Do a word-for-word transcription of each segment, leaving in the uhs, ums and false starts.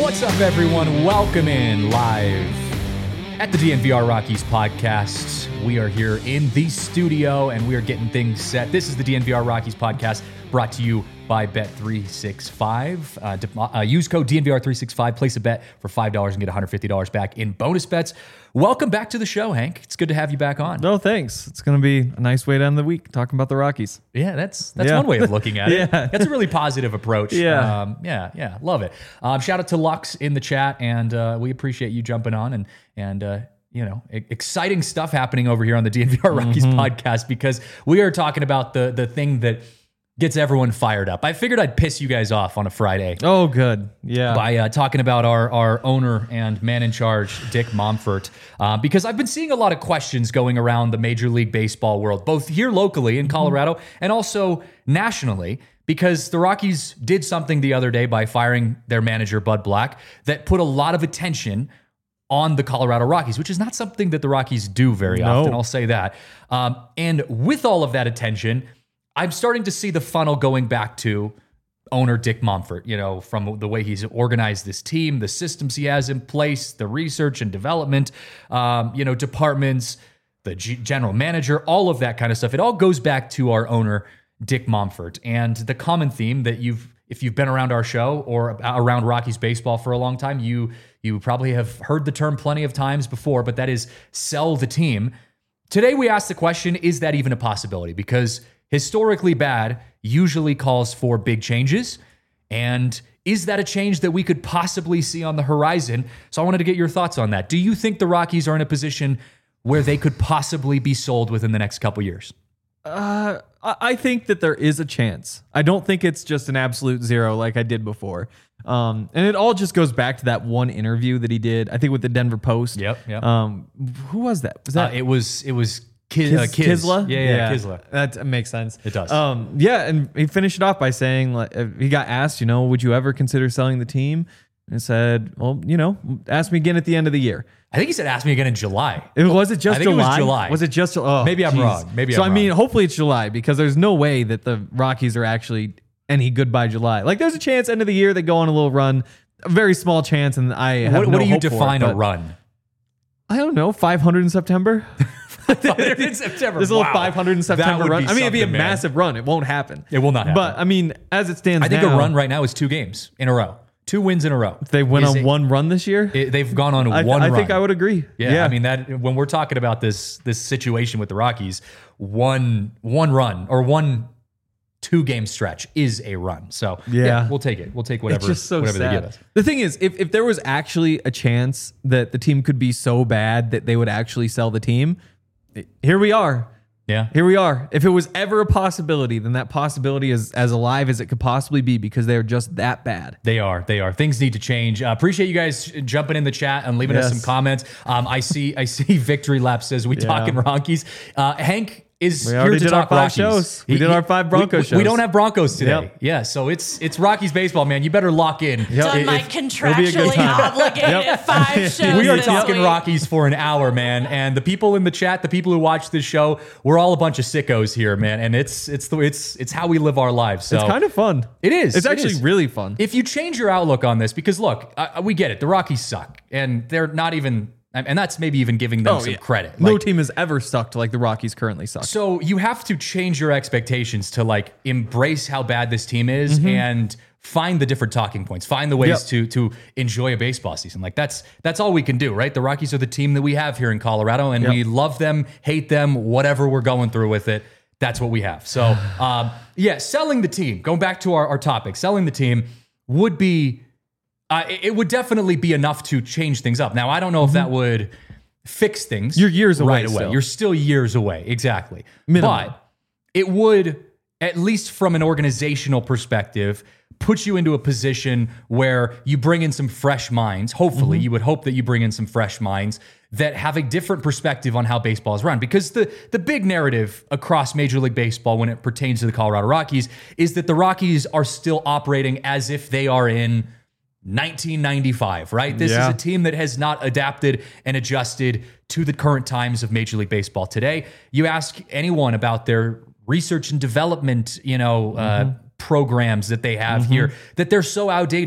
What's up, everyone? Welcome in live at the D N V R Rockies podcast. We are here in the studio and we are getting things set. This is the D N V R Rockies podcast brought to you by Bet three sixty-five. Uh, de- uh, use code D N V R three sixty-five. Place a bet for five dollars and get one hundred fifty dollars back in bonus bets. Welcome back to the show, Hank. It's good to have you back on. No, thanks. It's going to be a nice way to end the week talking about the Rockies. Yeah, that's that's Yeah. one way of looking at it. Yeah. That's a really positive approach. Yeah. um, yeah, yeah, love it. Um, shout out to Lux in the chat, and uh, we appreciate you jumping on and and uh, you know, e- exciting stuff happening over here on the D N V R Rockies Mm-hmm. podcast because we are talking about the the thing that gets everyone fired up. I figured I'd piss you guys off on a Friday. Oh, good. Yeah. By uh, talking about our, our owner and man in charge, Dick Monfort, uh, because I've been seeing a lot of questions going around the Major League Baseball world, both here locally in Colorado and also nationally, because the Rockies did something the other day by firing their manager, Bud Black, that put a lot of attention on the Colorado Rockies, which is not something that the Rockies do very No. often, I'll say that. Um, and with all of that attention, I'm starting to see the funnel going back to owner Dick Monfort, you know, from the way he's organized this team, the systems he has in place, the research and development, um, you know, departments, the G- general manager, all of that kind of stuff. It all goes back to our owner, Dick Monfort. And the common theme that you've, if you've been around our show or around Rockies baseball for a long time, you you probably have heard the term plenty of times before, but that is sell the team. Today we asked the question, is that even a possibility? Because historically bad usually calls for big changes. And is that a change that we could possibly see on the horizon? So I wanted to get your thoughts on that. Do you think the Rockies are in a position where they could possibly be sold within the next couple years? Uh, I I think that there is a chance. I don't think it's just an absolute zero like I did before. Um, and it all just goes back to that one interview that he did, I think with the Denver Post. Yep, yep. Um, who was that? Was Uh, that it was it was Ki- Kiz, uh, Kiz. Kisla? Yeah, yeah, Kisla. That makes sense. It does. Um, yeah, and he finished it off by saying, like, uh, he got asked, you know, would you ever consider selling the team? And he said, well, you know, ask me again at the end of the year. I think he said ask me again in July. It, was it just I think it was July? July. Was it just oh, Maybe I'm geez. wrong. Maybe so I'm I mean, wrong. hopefully it's July because there's no way that the Rockies are actually any good by July. Like there's a chance end of the year they go on a little run, a very small chance, and I have What, no what do you hope for it, define a but run? I don't know, five hundred in September. in September. There's a little Wow. five hundred in That September would run. be I mean, it'd be a something, man. massive run. It won't happen. It will not happen. But I mean, as it stands I think now, a run right now is two games in a row. Two wins in a row. if they went Is on it- one run this year, it- they've gone on I, one I run. think I would agree. Yeah, I mean that when we're talking about this this situation with the Rockies, one one run or one two game stretch is a run. So yeah, Yeah. we'll take it. We'll take whatever it's just so whatever sad. they give us. The thing is, if, if there was actually a chance that the team could be so bad that they would actually sell the team, here we are. Yeah. Here we are. If it was ever a possibility, then that possibility is as alive as it could possibly be because they are just that bad. They are. They are. Things need to change. Uh, appreciate you guys jumping in the chat and leaving us Yes. some comments. Um, I see. I see. Victory Lap says we Yeah. talking Rockies. Uh, Hank is We here already to did our talk five Rockies. shows. We did our five Broncos we, we, shows. We don't have Broncos today. Yep. Yeah. So it's it's Rockies baseball, man. You better lock in. Yep. Done my If- it'll be a good contractually time. obligated Yep. five shows. We are this talking week. Rockies for an hour, man, and the people in the chat, the people who watch this show, we're all a bunch of sickos here, man, and it's it's the it's it's how we live our lives. So It's kind of fun. It is. It's It actually is. really fun. If you change your outlook on this, because look, uh, we get it, the Rockies suck, and they're not even, and that's maybe even giving them some credit. No Like, team has ever sucked like the Rockies currently suck. so you have to change your expectations to like embrace how bad this team is and find the different talking points, find the ways Yep. to to enjoy a baseball season. Like that's that's all we can do, right? The Rockies are the team that we have here in Colorado, and Yep. we love them, hate them, whatever we're going through with it. That's what we have. So um, yeah, selling the team. Going back to our, our topic, selling the team would be. Uh, it it would definitely be enough to change things up. Now, I don't know if that would fix things. You're years away right away. still. You're still years away, exactly. Minimum. But it would, at least from an organizational perspective, put you into a position where you bring in some fresh minds. Hopefully, Mm-hmm. you would hope that you bring in some fresh minds that have a different perspective on how baseball is run. Because the, the big narrative across Major League Baseball when it pertains to the Colorado Rockies is that the Rockies are still operating as if they are in nineteen ninety-five, right? This Yeah. is a team that has not adapted and adjusted to the current times of Major League Baseball today. You ask anyone about their research and development, you know, uh, programs that they have here, that they're so outdated.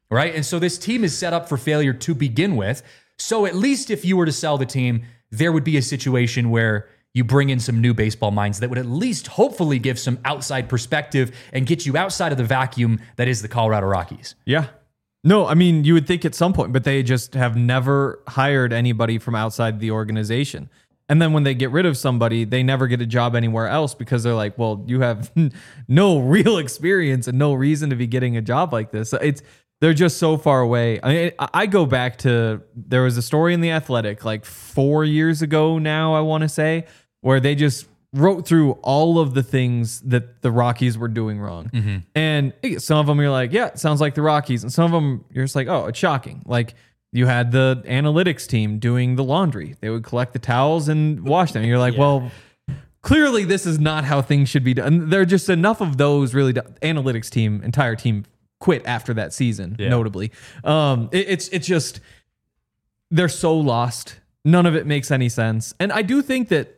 right? And so this team is set up for failure to begin with. So at least if you were to sell the team, there would be a situation where you bring in some new baseball minds that would at least hopefully give some outside perspective and get you outside of the vacuum that is the Colorado Rockies. Yeah. No, I mean, you would think at some point, but they just have never hired anybody from outside the organization. And then when they get rid of somebody, they never get a job anywhere else because they're like, well, you have no real experience and no reason to be getting a job like this. It's They're just so far away. I mean, I go back to, there was a story in The Athletic like four years ago now, I want to say, where they just wrote through all of the things that the Rockies were doing wrong. Mm-hmm. And some of them you're like, yeah, it sounds like the Rockies. And some of them you're just like, oh, it's shocking. Like you had the analytics team doing the laundry. They would collect the towels and wash them. And you're like, yeah. well, clearly this is not how things should be done. And there are just enough of those really, do- analytics team, entire team quit after that season, yeah. notably. Um, it, it's it's just, they're so lost. None of it makes any sense. And I do think that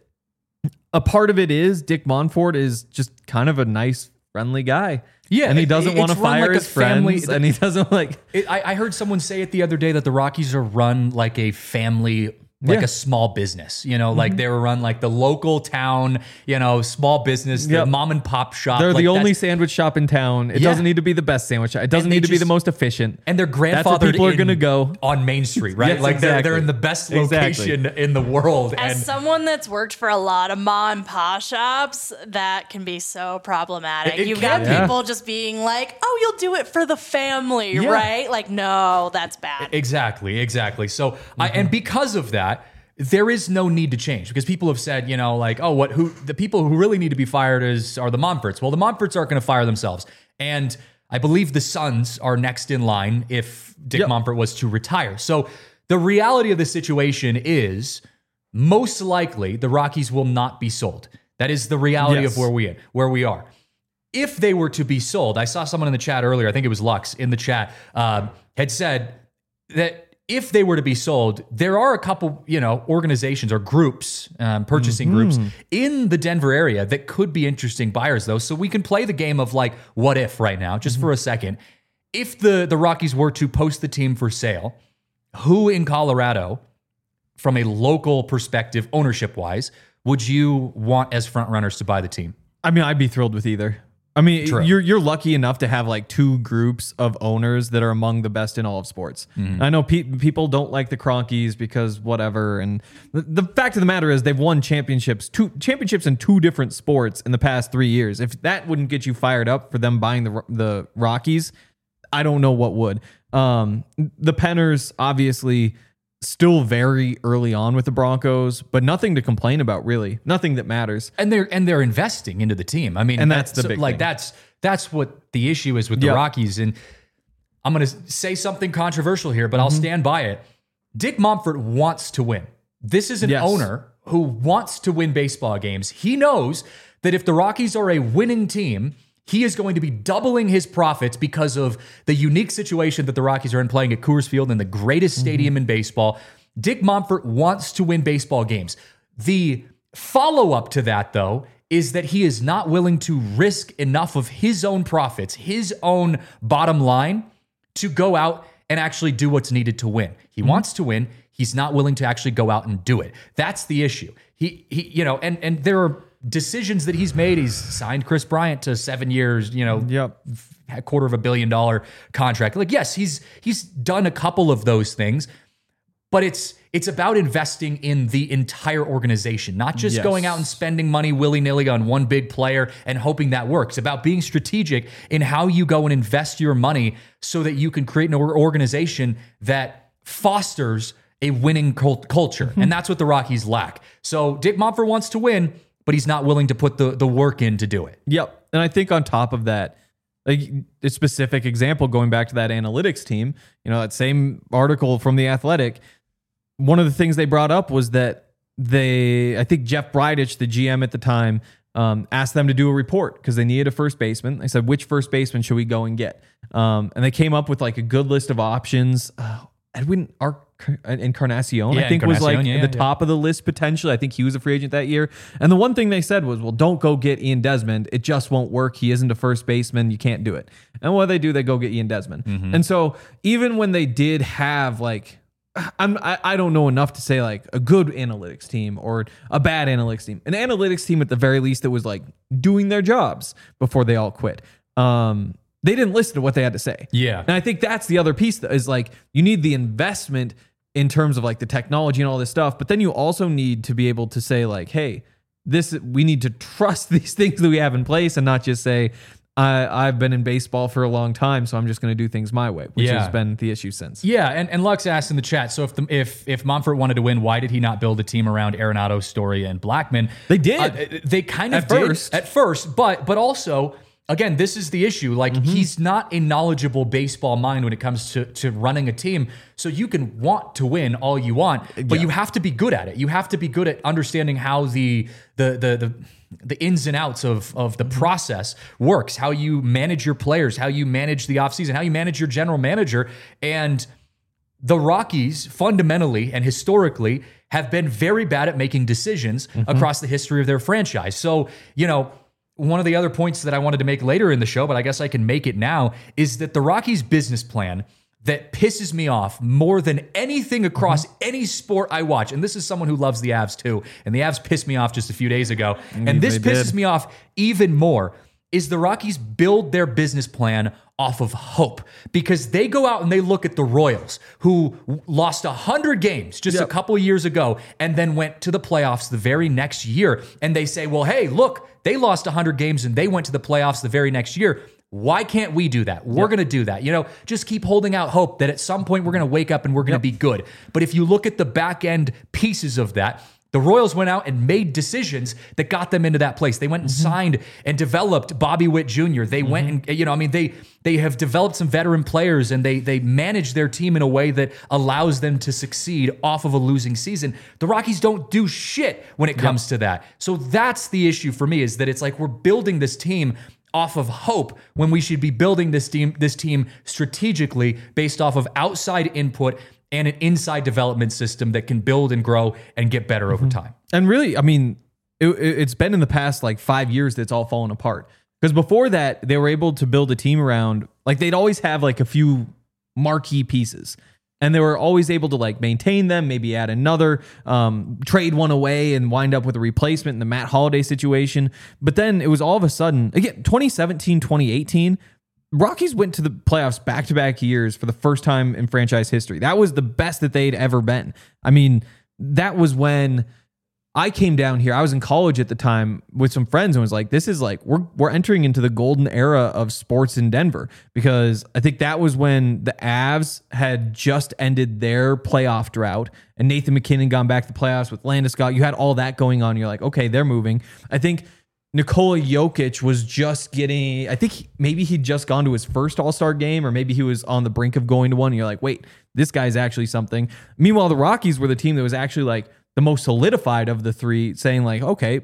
a part of it is Dick Monfort is just kind of a nice, friendly guy. Yeah. And he doesn't want to fire like his friends. Family, and he doesn't like... It, I, I heard someone say it the other day that the Rockies are run like a family... like yeah. a small business, you know, like mm-hmm. they were run like the local town, you know, small business, the yep. mom and pop shop. They're like the only sandwich shop in town. It yeah. doesn't need to be the best sandwich shop. It doesn't need to just, be the most efficient. And their grandfathered people are going to go on Main Street, right? yes, like exactly. they're, they're in the best location exactly. in the world. As and someone that's worked for a lot of mom and pop shops, that can be so problematic. It, it You've got yeah. people just being like, oh, you'll do it for the family, yeah. right? Like, no, that's bad. Exactly, exactly. So, mm-hmm. I, and because of that, there is no need to change because people have said, you know, like, oh, what, who, the people who really need to be fired is are the Monforts. Well, the Monforts aren't going to fire themselves. And I believe the Suns are next in line if Dick yep. Monfort was to retire. So the reality of the situation is most likely the Rockies will not be sold. That is the reality yes. of where we where we are. If they were to be sold, I saw someone in the chat earlier, I think it was Lux in the chat, uh, had said that if they were to be sold, there are a couple, you know, organizations or groups, um, purchasing mm-hmm. groups in the Denver area that could be interesting buyers, though. So we can play the game of like, what if right now, just mm-hmm. for a second. If the, the Rockies were to post the team for sale, who in Colorado, from a local perspective, ownership-wise, would you want as front runners to buy the team? I mean, I'd be thrilled with either. I mean, True. you're you're lucky enough to have like two groups of owners that are among the best in all of sports. Mm. I know pe- people don't like the Cronkies because whatever, and the, the fact of the matter is they've won championships, two championships in two different sports in the past three years. If that wouldn't get you fired up for them buying the the Rockies, I don't know what would. Um, the Penners obviously still very early on with the Broncos, but nothing to complain about, really. Nothing that matters. And they're and they're investing into the team. I mean, and that's, that's the big like thing. that's that's what the issue is with the yep. Rockies. And I'm going to say something controversial here, but mm-hmm. I'll stand by it. Dick Monfort wants to win. This is an yes. owner who wants to win baseball games. He knows that if the Rockies are a winning team, he is going to be doubling his profits because of the unique situation that the Rockies are in playing at Coors Field in the greatest stadium mm-hmm. in baseball. Dick Monfort wants to win baseball games. The follow-up to that, though, is that he is not willing to risk enough of his own profits, his own bottom line, to go out and actually do what's needed to win. He mm-hmm. wants to win. He's not willing to actually go out and do it. That's the issue. He, he, you know, and and there are decisions that he's made. He's signed Chris Bryant to seven years, you know, yep. a quarter of a billion dollar contract. Like, yes, he's he's done a couple of those things, but it's it's about investing in the entire organization, not just yes. going out and spending money willy-nilly on one big player and hoping that works. It's about being strategic in how you go and invest your money so that you can create an organization that fosters a winning cult- culture. Mm-hmm. And that's what the Rockies lack. So Dick Monfort wants to win, but he's not willing to put the, the work in to do it. Yep. And I think on top of that, like a specific example, going back to that analytics team, you know, that same article from The Athletic, one of the things they brought up was that they, I think Jeff Bridich, the G M at the time, um, asked them to do a report because they needed a first baseman. They said, which first baseman should we go and get? Um, and they came up with like a good list of options. Uh, Edwin Ar- Encarnacion, Yeah, I think was like Encarnacion, yeah, at the yeah. top of the list potentially. I think he was a free agent that year. And the one thing they said was, well, don't go get Ian Desmond. It just won't work. He isn't a first baseman. You can't do it. And what they do, they go get Ian Desmond. Mm-hmm. And so even when they did have like, I'm, I, I don't know enough to say like a good analytics team or a bad analytics team. An analytics team at the very least that was like doing their jobs before they all quit. Um, they didn't listen to what they had to say. Yeah. And I think that's the other piece that is like, you need the investment in terms of like the technology and all this stuff, but then you also need to be able to say like, hey, this, we need to trust these things that we have in place and not just say, I, I've been in baseball for a long time, so I'm just going to do things my way, which Yeah. has been the issue since. Yeah, and, and Lux asked in the chat, so if the, if if Monfort wanted to win, why did he not build a team around Arenado, Story, and Blackman? They did. Uh, they kind of At did first. at first, but but also, again, this is the issue. Like, Mm-hmm. he's not a knowledgeable baseball mind when it comes to, to running a team. So you can want to win all you want, but Yeah. you have to be good at it. You have to be good at understanding how the the the the the ins and outs of, of the process works, how you manage your players, how you manage the offseason, how you manage your general manager. And the Rockies fundamentally and historically have been very bad at making decisions across the history of their franchise. So, you know, one of the other points that I wanted to make later in the show, but I guess I can make it now, is that the Rockies' business plan that pisses me off more than anything across any sport I watch. And this is someone who loves the Avs too. And the Avs pissed me off just a few days ago. And this they pisses did. me off even more, is the Rockies build their business plan off of hope, because they go out and they look at the Royals, who lost one hundred games just a Yep. couple years ago and then went to the playoffs the very next year. And they say, well, hey, look, they lost one hundred games and they went to the playoffs the very next year. Why can't we do that? We're going to do that. You know, just keep holding out hope that at some point we're going to wake up and we're going to be good. But if you look at the back end pieces of that, the Royals went out and made decisions that got them into that place. They went and signed and developed Bobby Witt Junior They went and, you know, I mean, they they have developed some veteran players and they they manage their team in a way that allows them to succeed off of a losing season. The Rockies don't do shit when it comes to that. So that's the issue for me, is that it's like we're building this team off of hope when we should be building this team this team strategically based off of outside input and an inside development system that can build and grow and get better over time. And really, I mean, it, it- it's been in the past like five years that's all fallen apart. Because before that, they were able to build a team around, like they'd always have like a few marquee pieces. And they were always able to like maintain them, maybe add another, um, trade one away and wind up with a replacement in the Matt Holliday situation. But then it was all of a sudden, again, twenty seventeen, twenty eighteen, Rockies went to the playoffs back-to-back years for the first time in franchise history. That was the best that they'd ever been. I mean, that was when I came down here. I was in college at the time with some friends and was like, this is like, we're we're entering into the golden era of sports in Denver, because I think that was when the Avs had just ended their playoff drought and Nathan McKinnon gone back to the playoffs with Landeskog. You had all that going on. You're like, okay, they're moving. I think Nikola Jokic was just getting, I think he, maybe he'd just gone to his first All-Star game, or maybe he was on the brink of going to one. And you're like, wait, this guy's actually something. Meanwhile, the Rockies were the team that was actually like the most solidified of the three, saying like, okay,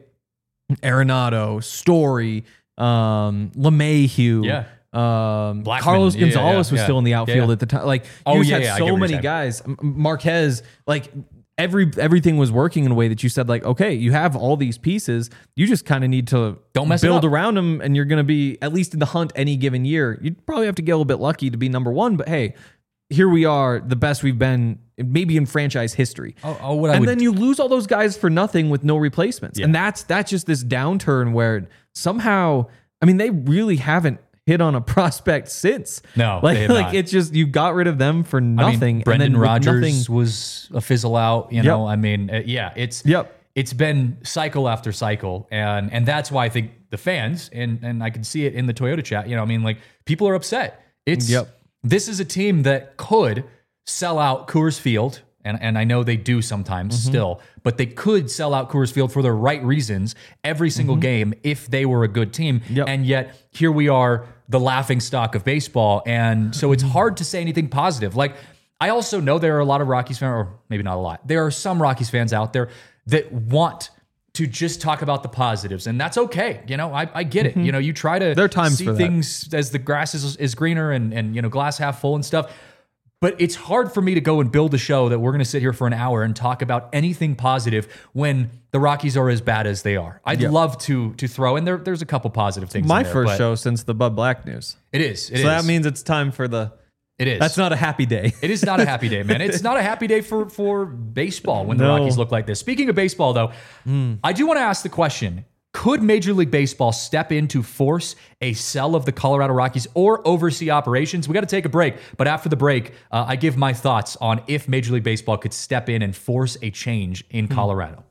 Arenado, Story, um, LeMahieu, Yeah. um, Blackman. Carlos Yeah, yeah, Gonzalez yeah, was yeah. still in the outfield Yeah. at the time. Like, you Oh, just yeah, had yeah, I get so what you're many saying. guys. M- Marquez, like every everything was working in a way that you said like, okay, you have all these pieces. You just kind of need to Don't mess it build up. around them, and you're going to be at least in the hunt any given year. You'd probably have to get a little bit lucky to be number one, but hey, here we are, the best we've been maybe in franchise history. Oh, oh, what I and would- then you lose all those guys for nothing with no replacements. Yeah. And that's that's just this downturn where somehow, I mean, they really haven't hit on a prospect since. No, like they have like not. it's just you got rid of them for I mean, nothing. Brendan and then with Rodgers nothing, was a fizzle out. You know, I mean, uh, yeah, it's Yep. it's been cycle after cycle, and and that's why I think the fans and and I can see it in the Toyota chat. You know, I mean, like people are upset. It's Yep. this is a team that could sell out Coors Field. And, and I know they do sometimes Mm-hmm. still, but they could sell out Coors Field for the right reasons every single game if they were a good team. Mm-hmm. Yep. And yet here we are, the laughing stock of baseball. And so it's hard to say anything positive. Like, I also know there are a lot of Rockies fans, or maybe not a lot. There are some Rockies fans out there that want to just talk about the positives, and that's okay. You know, I, I get it. You know, you try to There are times see for that. things as the grass is, is greener and, and, you know, glass half full and stuff. But it's hard for me to go and build a show that we're going to sit here for an hour and talk about anything positive when the Rockies are as bad as they are. I'd Yeah. love to to throw in there. There's a couple positive things. My in there, first but show since the Bud Black news. It is. It so is. that means it's time for the. it is. That's not a happy day. It is not a happy day, man. It's not a happy day for for baseball when the No. Rockies look like this. Speaking of baseball, though, I do want to ask the question. Could Major League Baseball step in to force a sell of the Colorado Rockies or oversee operations? We got to take a break, but after the break, uh, I give my thoughts on if Major League Baseball could step in and force a change in Colorado.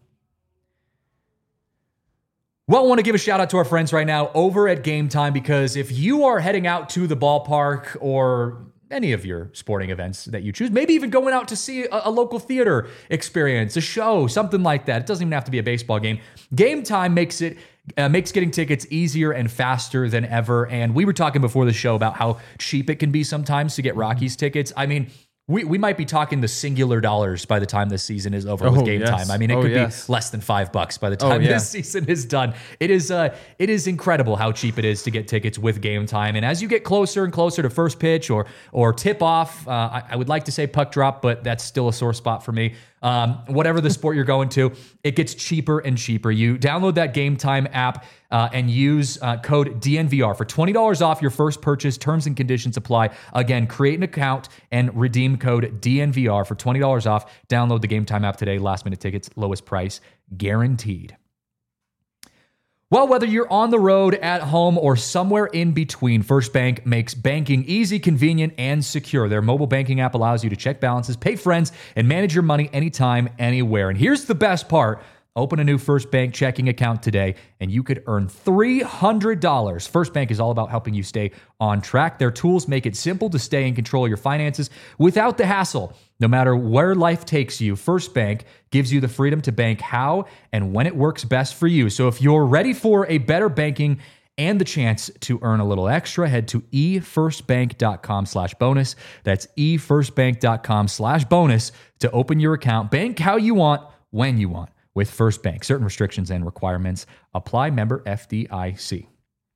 Well, I want to give a shout out to our friends right now over at Game Time, because if you are heading out to the ballpark or any of your sporting events that you choose, maybe even going out to see a, a local theater experience, a show, something like that. It doesn't even have to be a baseball game. Game Time makes it uh, makes getting tickets easier and faster than ever. And we were talking before the show about how cheap it can be sometimes to get Rockies tickets. I mean, we, we might be talking the singular dollars by the time this season is over Oh, with Game yes. Time. I mean, it Oh, could yes. be less than five bucks by the Oh, time yeah. this season is done. It is uh, it is incredible how cheap it is to get tickets with Game Time. And as you get closer and closer to first pitch or or tip off, uh, I, I would like to say puck drop, but that's still a sore spot for me. Um, whatever the sport you're going to, it gets cheaper and cheaper. You download that Game Time app uh, and use uh, code D N V R for twenty dollars off your first purchase. Terms and conditions apply. Again, create an account and redeem code D N V R for twenty dollars off. Download the Game Time app today. Last minute tickets, lowest price guaranteed. Well, whether you're on the road, at home, or somewhere in between, First Bank makes banking easy, convenient, and secure. Their mobile banking app allows you to check balances, pay friends, and manage your money anytime, anywhere. And here's the best part. Open a new First Bank checking account today, and you could earn three hundred dollars. First Bank is all about helping you stay on track. Their tools make it simple to stay in control of your finances without the hassle. No matter where life takes you, First Bank gives you the freedom to bank how and when it works best for you. So if you're ready for a better banking and the chance to earn a little extra, head to efirstbank.com slash bonus. That's efirstbank.com slash bonus to open your account. Bank how you want, when you want with First Bank. Certain restrictions and requirements apply. Member F D I C.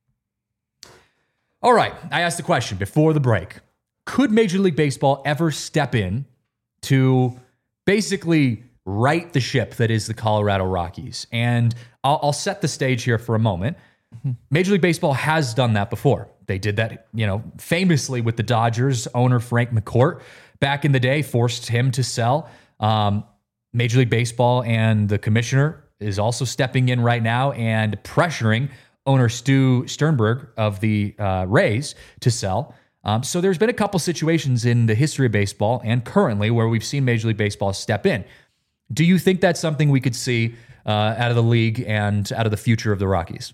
All right, I asked the question before the break. Could Major League Baseball ever step in to basically right the ship that is the Colorado Rockies? And I'll, I'll set the stage here for a moment. Major League Baseball has done that before. They did that, you know, famously with the Dodgers owner Frank McCourt back in the day, forced him to sell. Um, Major League Baseball and the commissioner is also stepping in right now and pressuring owner Stu Sternberg of the uh, Rays to sell. Um, so there's been a couple situations in the history of baseball and currently where we've seen Major League Baseball step in. Do you think that's something we could see uh, out of the league and out of the future of the Rockies?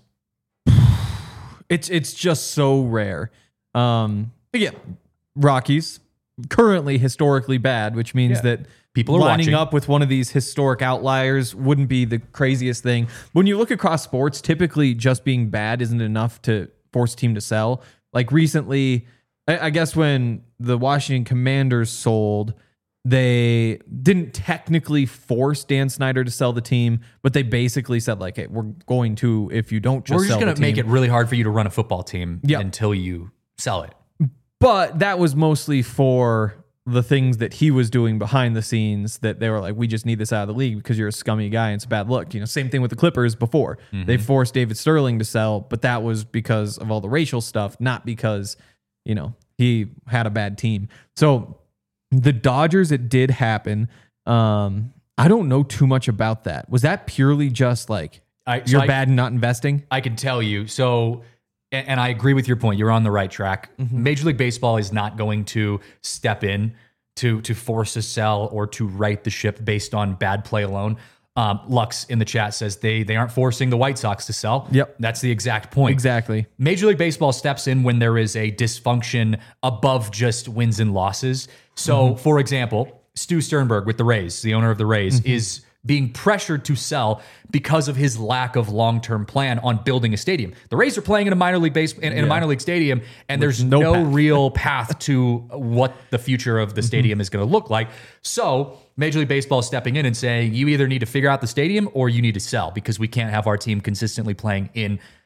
It's it's just so rare. Um, again, Rockies currently historically bad, which means Yeah. that People are lining watching. up with one of these historic outliers wouldn't be the craziest thing. When you look across sports, typically just being bad isn't enough to force a team to sell. Like recently, I, I guess when the Washington Commanders sold, they didn't technically force Dan Snyder to sell the team, but they basically said like, "Hey, we're going to if you don't just We're just sell going the to make team." it really hard for you to run a football team Yeah. until you sell it. But that was mostly for the things that he was doing behind the scenes that they were like, we just need this out of the league because you're a scummy guy and it's a bad look. You know, same thing with the Clippers before. Mm-hmm. They forced David Sterling to sell, but that was because of all the racial stuff, not because, you know, he had a bad team. So the Dodgers, it did happen. Um, I don't know too much about that. Was that purely just like, I, so you're I- bad and not investing? I can tell you. So, and, and I agree with your point. You're on the right track. Mm-hmm. Major League Baseball is not going to step in to to force a sell or to right the ship based on bad play alone. Um, Lux in the chat says they they aren't forcing the White Sox to sell. Yep. That's the exact point. Exactly. Major League Baseball steps in when there is a dysfunction above just wins and losses. So, Mm-hmm. for example, Stu Sternberg with the Rays, the owner of the Rays, Mm-hmm. is being pressured to sell because of his lack of long-term plan on building a stadium. The Rays are playing in a minor league base in, in a minor league stadium, and there's no no, path. real path to what the future of the stadium is going to look like. So Major League Baseball is stepping in and saying, you either need to figure out the stadium or you need to sell because we can't have our team consistently playing in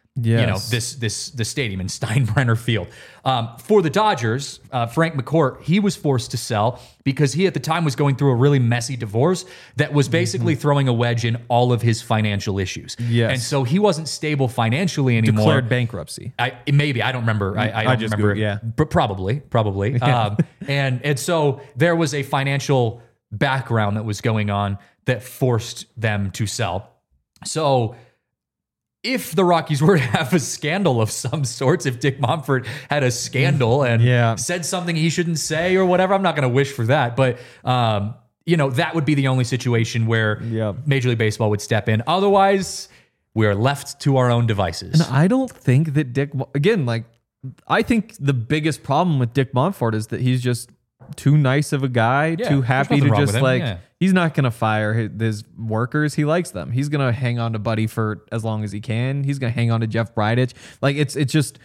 You know, Yes. this this the stadium in Steinbrenner Field. Um, for the Dodgers, uh, Frank McCourt, he was forced to sell because he at the time was going through a really messy divorce that was basically Mm-hmm. throwing a wedge in all of his financial issues. Yes. And so he wasn't stable financially anymore. Declared bankruptcy. I maybe I don't remember. I, I don't just remember. Googled, yeah. but probably, probably. Um, and and so there was a financial background that was going on that forced them to sell. So if the Rockies were to have a scandal of some sorts, if Dick Monfort had a scandal and Yeah. said something he shouldn't say or whatever, I'm not going to wish for that. But, um, you know, that would be the only situation where Yeah. Major League Baseball would step in. Otherwise, we are left to our own devices. I don't think that Dick, again, like, I think the biggest problem with Dick Monfort is that he's just too nice of a guy, Yeah, too there's happy nothing to wrong just with him, like, yeah. he's not going to fire his, his workers. He likes them. He's going to hang on to Buddy for as long as he can. He's going to hang on to Jeff Bridich. Like, it's, it's just,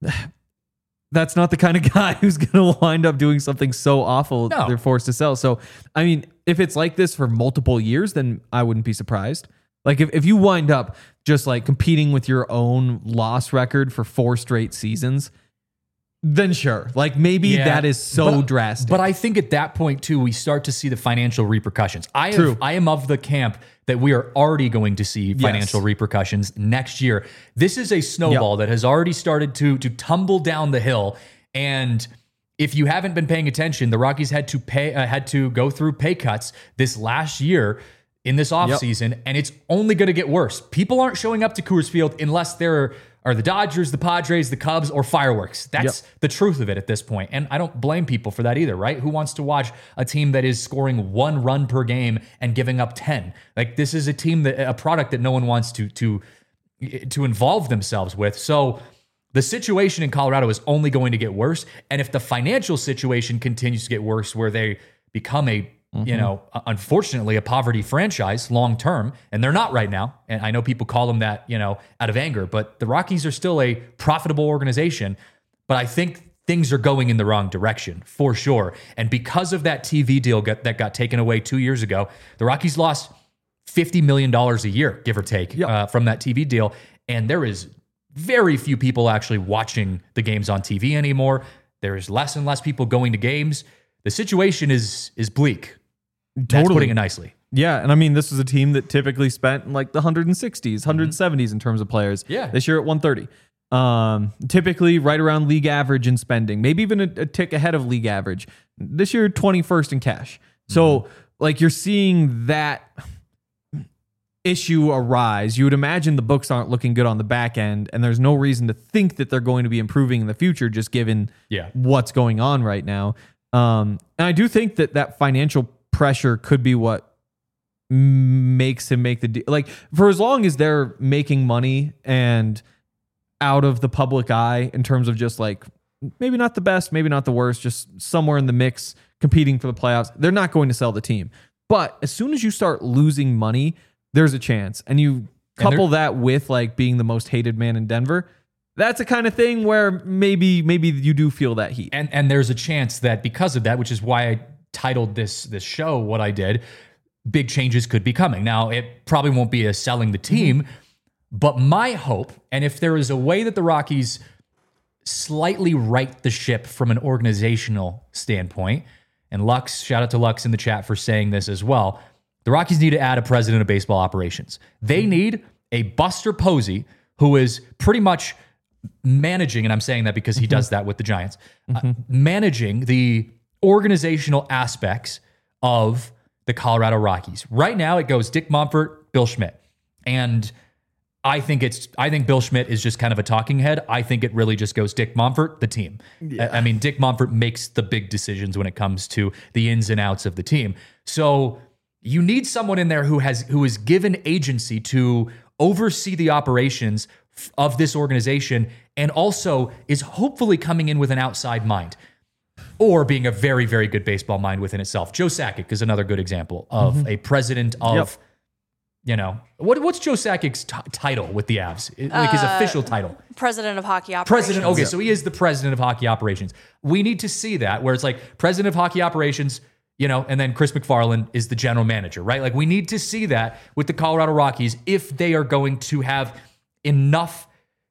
that's not the kind of guy who's going to wind up doing something so awful No. they're forced to sell. So, I mean, if it's like this for multiple years, then I wouldn't be surprised. Like if, if you wind up just like competing with your own loss record for four straight seasons, then sure. Like maybe Yeah, that is so but- drastic. But I think at that point too, we start to see the financial repercussions. I True. have, I am of the camp that we are already going to see financial repercussions next year. This is a snowball that has already started to to tumble down the hill. And if you haven't been paying attention, the Rockies had to pay uh, had to go through pay cuts this last year in this offseason, and it's only going to get worse. People aren't showing up to Coors Field unless there are the Dodgers, the Padres, the Cubs, or fireworks. That's the truth of it at this point. And I don't blame people for that either, right? Who wants to watch a team that is scoring one run per game and giving up ten? Like this is a team that a product that no one wants to to to involve themselves with. So the situation in Colorado is only going to get worse. And if the financial situation continues to get worse, where they become a you know, unfortunately, a poverty franchise long term, and they're not right now. And I know people call them that, you know, out of anger, but the Rockies are still a profitable organization. But I think things are going in the wrong direction for sure. And because of that T V deal get, that got taken away two years ago, the Rockies lost fifty million dollars a year, give or take, Yep. uh, from that T V deal. And there is very few people actually watching the games on T V anymore. There's less and less people going to games. The situation is is bleak. That's Totally. putting it nicely. Yeah, and I mean, this is a team that typically spent in like the one hundred sixties, one hundred seventies in terms of players. Yeah. This year at one thirty. Um, typically right around league average in spending, maybe even a, a tick ahead of league average. This year, twenty-first in cash. So, like, you're seeing that issue arise. You would imagine the books aren't looking good on the back end, and there's no reason to think that they're going to be improving in the future, just given Yeah. what's going on right now. Um, and I do think that that financial pressure could be what makes him make the deal. Like for as long as they're making money and out of the public eye in terms of just like maybe not the best, maybe not the worst, just somewhere in the mix competing for the playoffs, they're not going to sell the team. But as soon as you start losing money, there's a chance. And you couple that with like being the most hated man in Denver, that's a kind of thing where maybe maybe you do feel that heat. And and there's a chance that because of that, which is why I titled this this show what I did, big changes could be coming. Now, it probably won't be a selling the team, but my hope, and if there is a way that the Rockies slightly right the ship from an organizational standpoint, and Lux, shout out to Lux in the chat for saying this as well, the Rockies need to add a president of baseball operations. They need a Buster Posey who is pretty much managing, and I'm saying that because he does that with the Giants, uh, managing the organizational aspects of the Colorado Rockies. Right now, it goes Dick Monfort, Bill Schmidt. And I think it's I think Bill Schmidt is just kind of a talking head. I think it really just goes Dick Monfort, the team. I, I mean, Dick Monfort makes the big decisions when it comes to the ins and outs of the team. So you need someone in there who has who is given agency to oversee the operations f- of this organization and also is hopefully coming in with an outside mind or being a very, very good baseball mind within itself. Joe Sakic is another good example of a president of, Yep. you know, what what's Joe Sakic's t- title with the Avs? Like his official title. President of hockey operations. President, okay, so he is the president of hockey operations. We need to see that where it's like president of hockey operations, you know, and then Chris McFarland is the general manager, right? Like we need to see that with the Colorado Rockies if they are going to have enough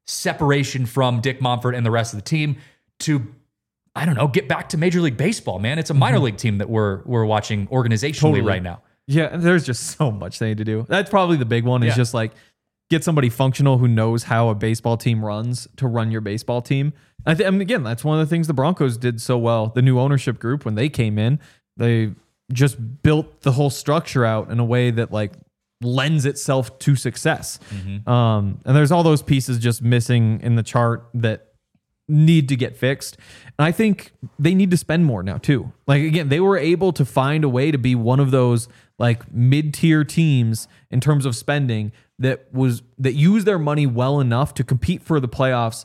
separation from Dick Monfort and the rest of the team to, I don't know, get back to Major League Baseball, man. It's a minor mm-hmm. league team that we're we're watching organizationally totally. right now. Yeah, there's just so much they need to do. That's probably the big one is yeah. just like get somebody functional who knows how a baseball team runs to run your baseball team. I, th- I mean, again, that's one of the things the Broncos did so well. The new ownership group, when they came in, they just built the whole structure out in a way that like lends itself to success. Mm-hmm. Um, and there's all those pieces just missing in the chart that need to get fixed. And I think they need to spend more now too. Like again, they were able to find a way to be one of those like mid-tier teams in terms of spending that was that used their money well enough to compete for the playoffs.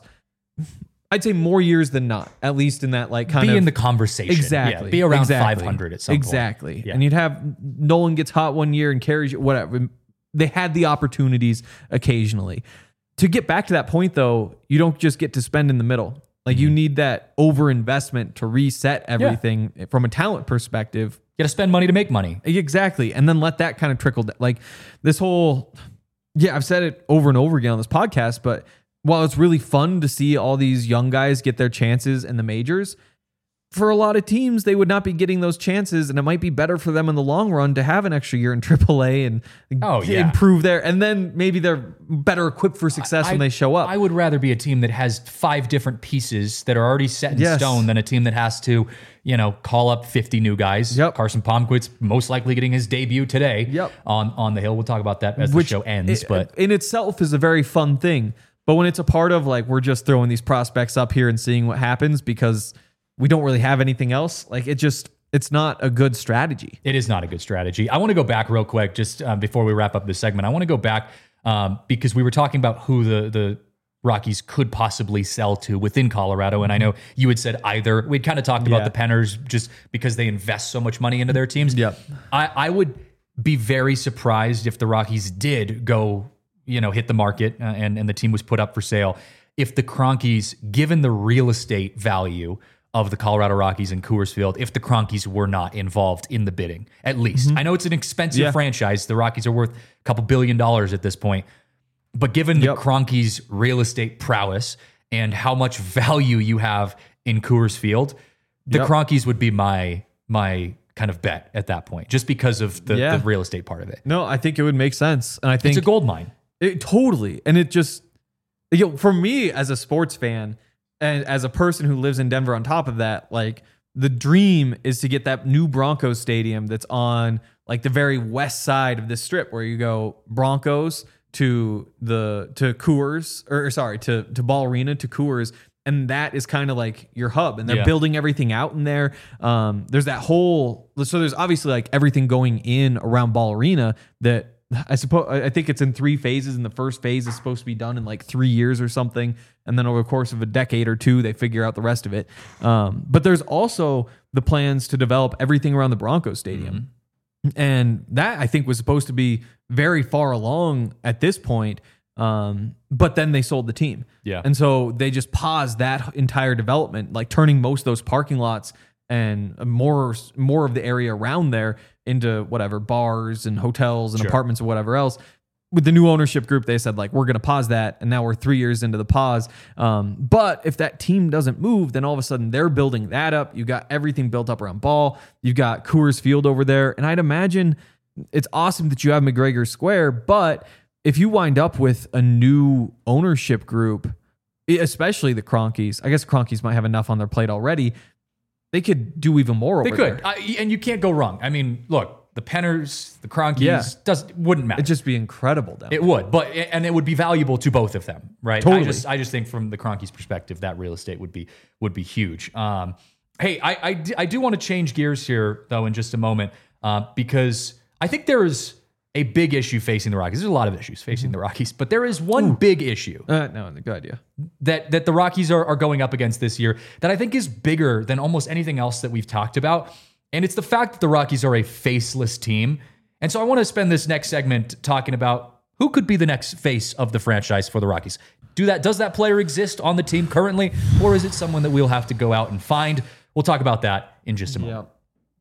I'd say more years than not, at least in that like kind be of be in the conversation. Exactly. Yeah, be around exactly. five hundred at some exactly. point. Exactly. Yeah. And you'd have Nolan gets hot one year and carries whatever. They had the opportunities occasionally. To get back to that point, though, you don't just get to spend in the middle. Like, mm-hmm. you need that over-investment to reset everything yeah. from a talent perspective. You got to spend money to make money. Exactly. And then let that kind of trickle down. Like, this whole... Yeah, I've said it over and over again on this podcast, but while it's really fun to see all these young guys get their chances in the majors, for a lot of teams, they would not be getting those chances, and it might be better for them in the long run to have an extra year in triple A and oh, yeah. improve there. And then maybe they're better equipped for success I, when they show up. I would rather be a team that has five different pieces that are already set in yes. stone than a team that has to, you know, call up fifty new guys. Yep. Carson Palmquist's most likely getting his debut today yep. on, on the Hill. We'll talk about that as Which the show ends. It, but in itself is a very fun thing. But when it's a part of, like, we're just throwing these prospects up here and seeing what happens because we don't really have anything else. Like it just, it's not a good strategy. It is not a good strategy. I want to go back real quick, just uh, before we wrap up this segment. I want to go back um, because we were talking about who the, the Rockies could possibly sell to within Colorado. And I know you had said either. We'd kind of talked about yeah. the Penners just because they invest so much money into their teams. Yep. I, I would be very surprised if the Rockies did go, you know, hit the market uh, and, and the team was put up for sale. If the Cronkies, given the real estate value of the Colorado Rockies and Coors Field, if the Cronkies were not involved in the bidding, at least. Mm-hmm. I know it's an expensive yeah. franchise. The Rockies are worth a couple billion dollars at this point. But given yep. the Cronkies' real estate prowess and how much value you have in Coors Field, the yep. Cronkies would be my my kind of bet at that point, just because of the, yeah. the real estate part of it. No, I think it would make sense. And I think it's a gold mine. It, totally. And it just, you know, for me as a sports fan, and as a person who lives in Denver on top of that, like the dream is to get that new Broncos stadium that's on like the very west side of this strip where you go Broncos to the to Coors or sorry to to Ball Arena to Coors, and that is kind of like your hub, and they're yeah. building everything out in there. Um, there's that whole so there's obviously like everything going in around Ball Arena that I suppose I think it's in three phases, and the first phase is supposed to be done in like three years or something, and then over the course of a decade or two, they figure out the rest of it. Um, but there's also the plans to develop everything around the Broncos Stadium, mm-hmm. and that I think was supposed to be very far along at this point. Um, but then they sold the team, yeah, and so they just paused that entire development, like turning most of those parking lots and more more of the area around there into whatever bars and hotels and sure. apartments or whatever else. With the new ownership group, they said like, we're going to pause that. And now we're three years into the pause. Um, but if that team doesn't move, then all of a sudden they're building that up. You got everything built up around Ball. You've got Coors Field over there. And I'd imagine it's awesome that you have McGregor Square, but if you wind up with a new ownership group, especially the Cronkies, I guess Cronkies might have enough on their plate already. They could do even more over there. They could. there. I, and you can't go wrong. I mean, look, the Penners, the Cronkies, yeah. does, wouldn't matter. It'd just be incredible down It there. would, but and it would be valuable to both of them, right? Totally. I just, I just think from the Cronkies' perspective, that real estate would be would be huge. Um, hey, I, I, I do want to change gears here, though, in just a moment, uh, because I think there is a big issue facing the Rockies. There's a lot of issues facing the Rockies, but there is one Ooh. big issue. Uh, no, good idea. That that the Rockies are, are going up against this year that I think is bigger than almost anything else that we've talked about. And it's the fact that the Rockies are a faceless team. And so I want to spend this next segment talking about who could be the next face of the franchise for the Rockies. Do that? Does that player exist on the team currently, or is it someone that we'll have to go out and find? We'll talk about that in just a moment. Yep.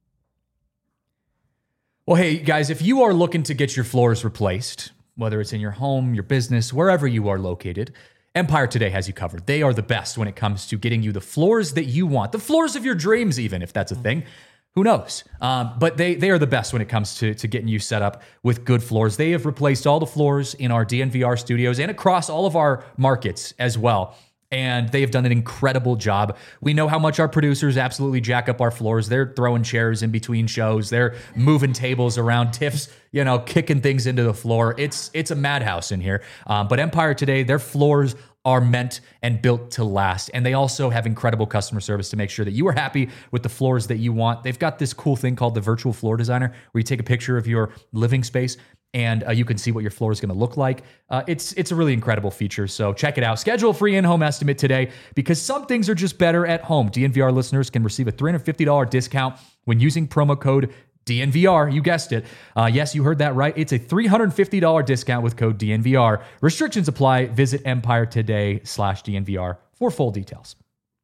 Well, hey, guys, if you are looking to get your floors replaced, whether it's in your home, your business, wherever you are located, Empire Today has you covered. They are the best when it comes to getting you the floors that you want, the floors of your dreams, even if that's a thing. Who knows? Um, but they they are the best when it comes to, to getting you set up with good floors. They have replaced all the floors in our D N V R studios and across all of our markets as well. And they have done an incredible job. We know how much our producers absolutely jack up our floors. They're throwing chairs in between shows. They're moving tables around, Tiff's, you know, kicking things into the floor. It's it's a madhouse in here. Um, but Empire Today, their floors are meant and built to last. And they also have incredible customer service to make sure that you are happy with the floors that you want. They've got this cool thing called the virtual floor designer, where you take a picture of your living space and uh, you can see what your floor is going to look like. Uh, it's it's a really incredible feature, so check it out. Schedule a free in-home estimate today, because some things are just better at home. D N V R listeners can receive a three hundred fifty dollars discount when using promo code D N V R. You guessed it. Uh, yes, you heard that right. It's a three hundred fifty dollars discount with code D N V R. Restrictions apply. Visit Empire Today slash D N V R for full details.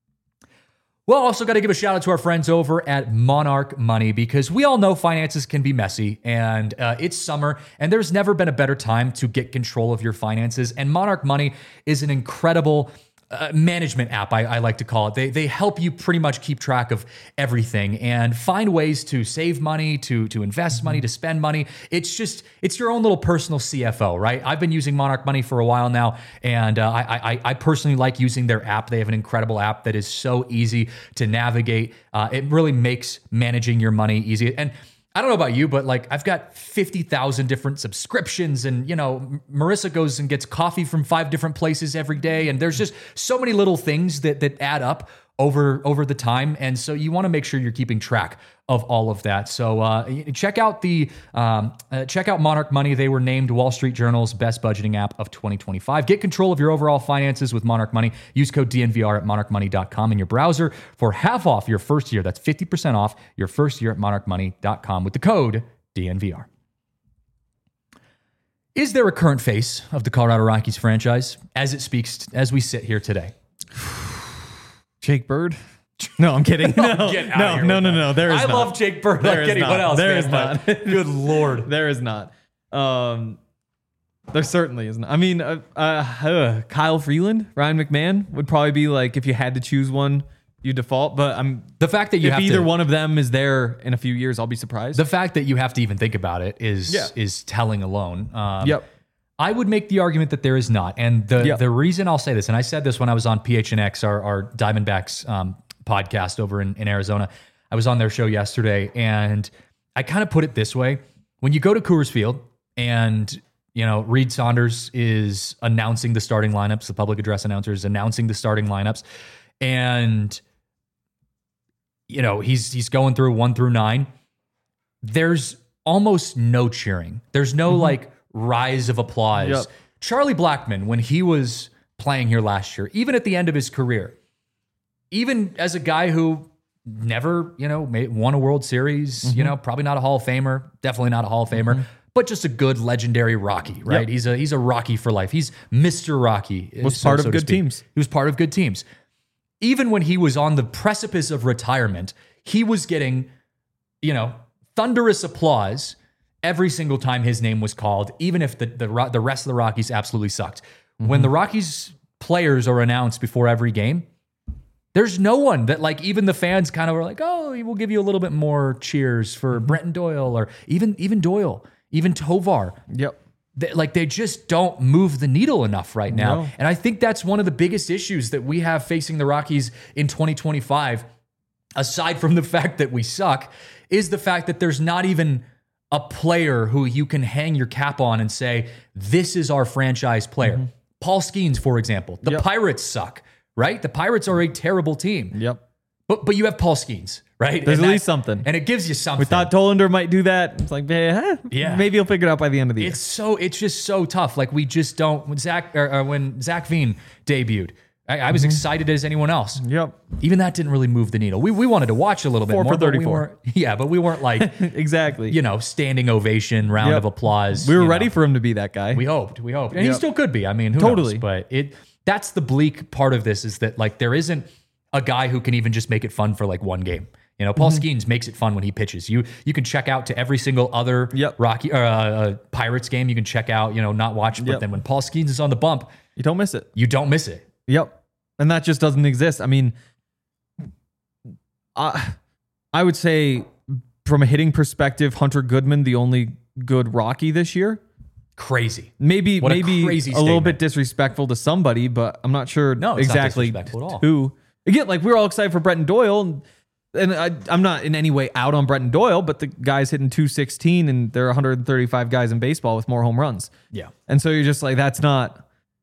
Well, also got to give a shout out to our friends over at Monarch Money, because we all know finances can be messy, and uh, it's summer, and there's never been a better time to get control of your finances. And Monarch Money is an incredible Uh, management app, I, I like to call it. They they help you pretty much keep track of everything and find ways to save money, to to invest money, to spend money. It's just, it's your own little personal C F O, right? I've been using Monarch Money for a while now, and uh, I, I I personally like using their app. They have an incredible app that is so easy to navigate. Uh, it really makes managing your money easy. And I don't know about you, but like I've got fifty thousand different subscriptions, and you know, Marissa goes and gets coffee from five different places every day. And there's just so many little things that that add up over, over the time. And so you want to make sure you're keeping track of all of that. So uh, check out the um, uh, check out Monarch Money. They were named Wall Street Journal's best budgeting app of twenty twenty-five. Get control of your overall finances with Monarch Money. Use code D N V R at monarch money dot com in your browser for half off your first year. That's fifty percent off your first year at monarch money dot com with the code D N V R. Is there a current face of the Colorado Rockies franchise as it speaks as we sit here today? Jake Bird? No, I'm kidding. No, no, Get out no, of here no, with no, that. no. There is I not. love Jake Bird There like is anyone not. else. There man, is but not. Good Lord. There is not. Um, there certainly isn't. I mean, uh, uh, Kyle Freeland, Ryan McMahon would probably be like, if you had to choose one, you default. But I'm The fact that you if have either to, one of them is there in a few years, I'll be surprised. the fact that you have to even think about it is Yeah. is telling alone. Um, Yep. I would make the argument that there is not. And the Yep. the reason I'll say this, and I said this when I was on P H N X, our, our Diamondbacks um, podcast over in, in Arizona. I was on their show yesterday, and I kind of put it this way. When you go to Coors Field and, you know, Reed Saunders is announcing the starting lineups, the public address announcer is announcing the starting lineups, and, you know, he's he's going through one through nine, there's almost no cheering. There's no Mm-hmm. like rise of applause. Yep. Charlie Blackmon, when he was playing here last year, even at the end of his career, even as a guy who never, you know, made, won a World Series, Mm-hmm. you know, probably not a Hall of Famer, definitely not a Hall of Famer, but just a good legendary Rocky, right? Yep. He's a he's a Rocky for life. He's Mister Rocky. Was so- part so of to good speak. teams. He was part of good teams. Even when he was on the precipice of retirement, he was getting, you know, thunderous applause every single time his name was called, even if the the, Ro- the rest of the Rockies absolutely sucked. When the Rockies players are announced before every game, there's no one that, like, even the fans kind of are like, oh, we'll give you a little bit more cheers for Brenton Doyle, or even even Doyle, even Tovar. Yep. They, like, they just don't move the needle enough right now. No. And I think that's one of the biggest issues that we have facing the Rockies in twenty twenty-five, aside from the fact that we suck, is the fact that there's not even a player who you can hang your cap on and say, this is our franchise player. Mm-hmm. Paul Skeens, for example. The Yep. Pirates suck, right? The Pirates are a terrible team. Yep. But but you have Paul Skeens, right? There's And at that- least something. And it gives you something. We thought Tollander might do that. It's like, eh, Yeah. maybe he'll figure it out by the end of the year. It's so it's just so tough. Like, we just don't. When Zach or, or when Zach Veen debuted, I, I was excited as anyone else. Yep. Even that didn't really move the needle. We we wanted to watch a little bit Four more. for but we thirty-four. weren't- yeah, but we weren't like Exactly. you know standing ovation, round Yep. of applause. we were you ready know. for him to be that guy. We hoped. We hoped, and he Yep. still could be. I mean, who Totally. knows? But it that's the bleak part of this, is that, like, there isn't a guy who can even just make it fun for like one game. You know, Paul mm-hmm. Skeens makes it fun when he pitches. You you can check out to every single other yep. Rocky uh, uh, Pirates game. You can check out, you know, not watch, but yep. then when Paul Skeens is on the bump, you don't miss it. You don't miss it. Yep, and that just doesn't exist. I mean, I I would say from a hitting perspective, Hunter Goodman, the only good Rocky this year. Crazy. Maybe what maybe a, crazy a little bit disrespectful to somebody, but I'm not sure no, it's exactly not disrespectful at all. who. Again, like we're all excited for Brenton Doyle, and, and I, I'm not in any way out on Brenton Doyle, but the guy's hitting two sixteen, and there are one hundred thirty-five guys in baseball with more home runs. Yeah, and so you're just like, that's not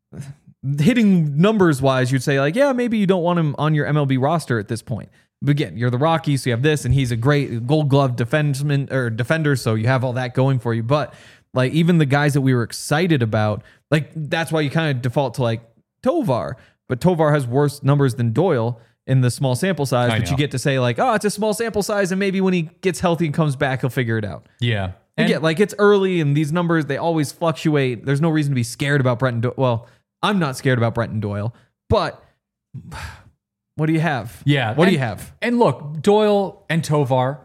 hitting numbers wise. You'd say like, yeah, maybe you don't want him on your M L B roster at this point. But again, you're the Rockies, so you have this, and he's a great Gold Glove defenseman or defender, so you have all that going for you. But like even the guys that we were excited about, like that's why you kind of default to like Tovar. But Tovar has worse numbers than Doyle in the small sample size. I but know. you get to say like, oh, it's a small sample size, and maybe when he gets healthy and comes back, he'll figure it out. Yeah. And again, like it's early, and these numbers they always fluctuate. There's no reason to be scared about Brenton Doyle. Well, I'm not scared about Brenton Doyle, but what do you have? Yeah. What and, do you have? And look, Doyle and Tovar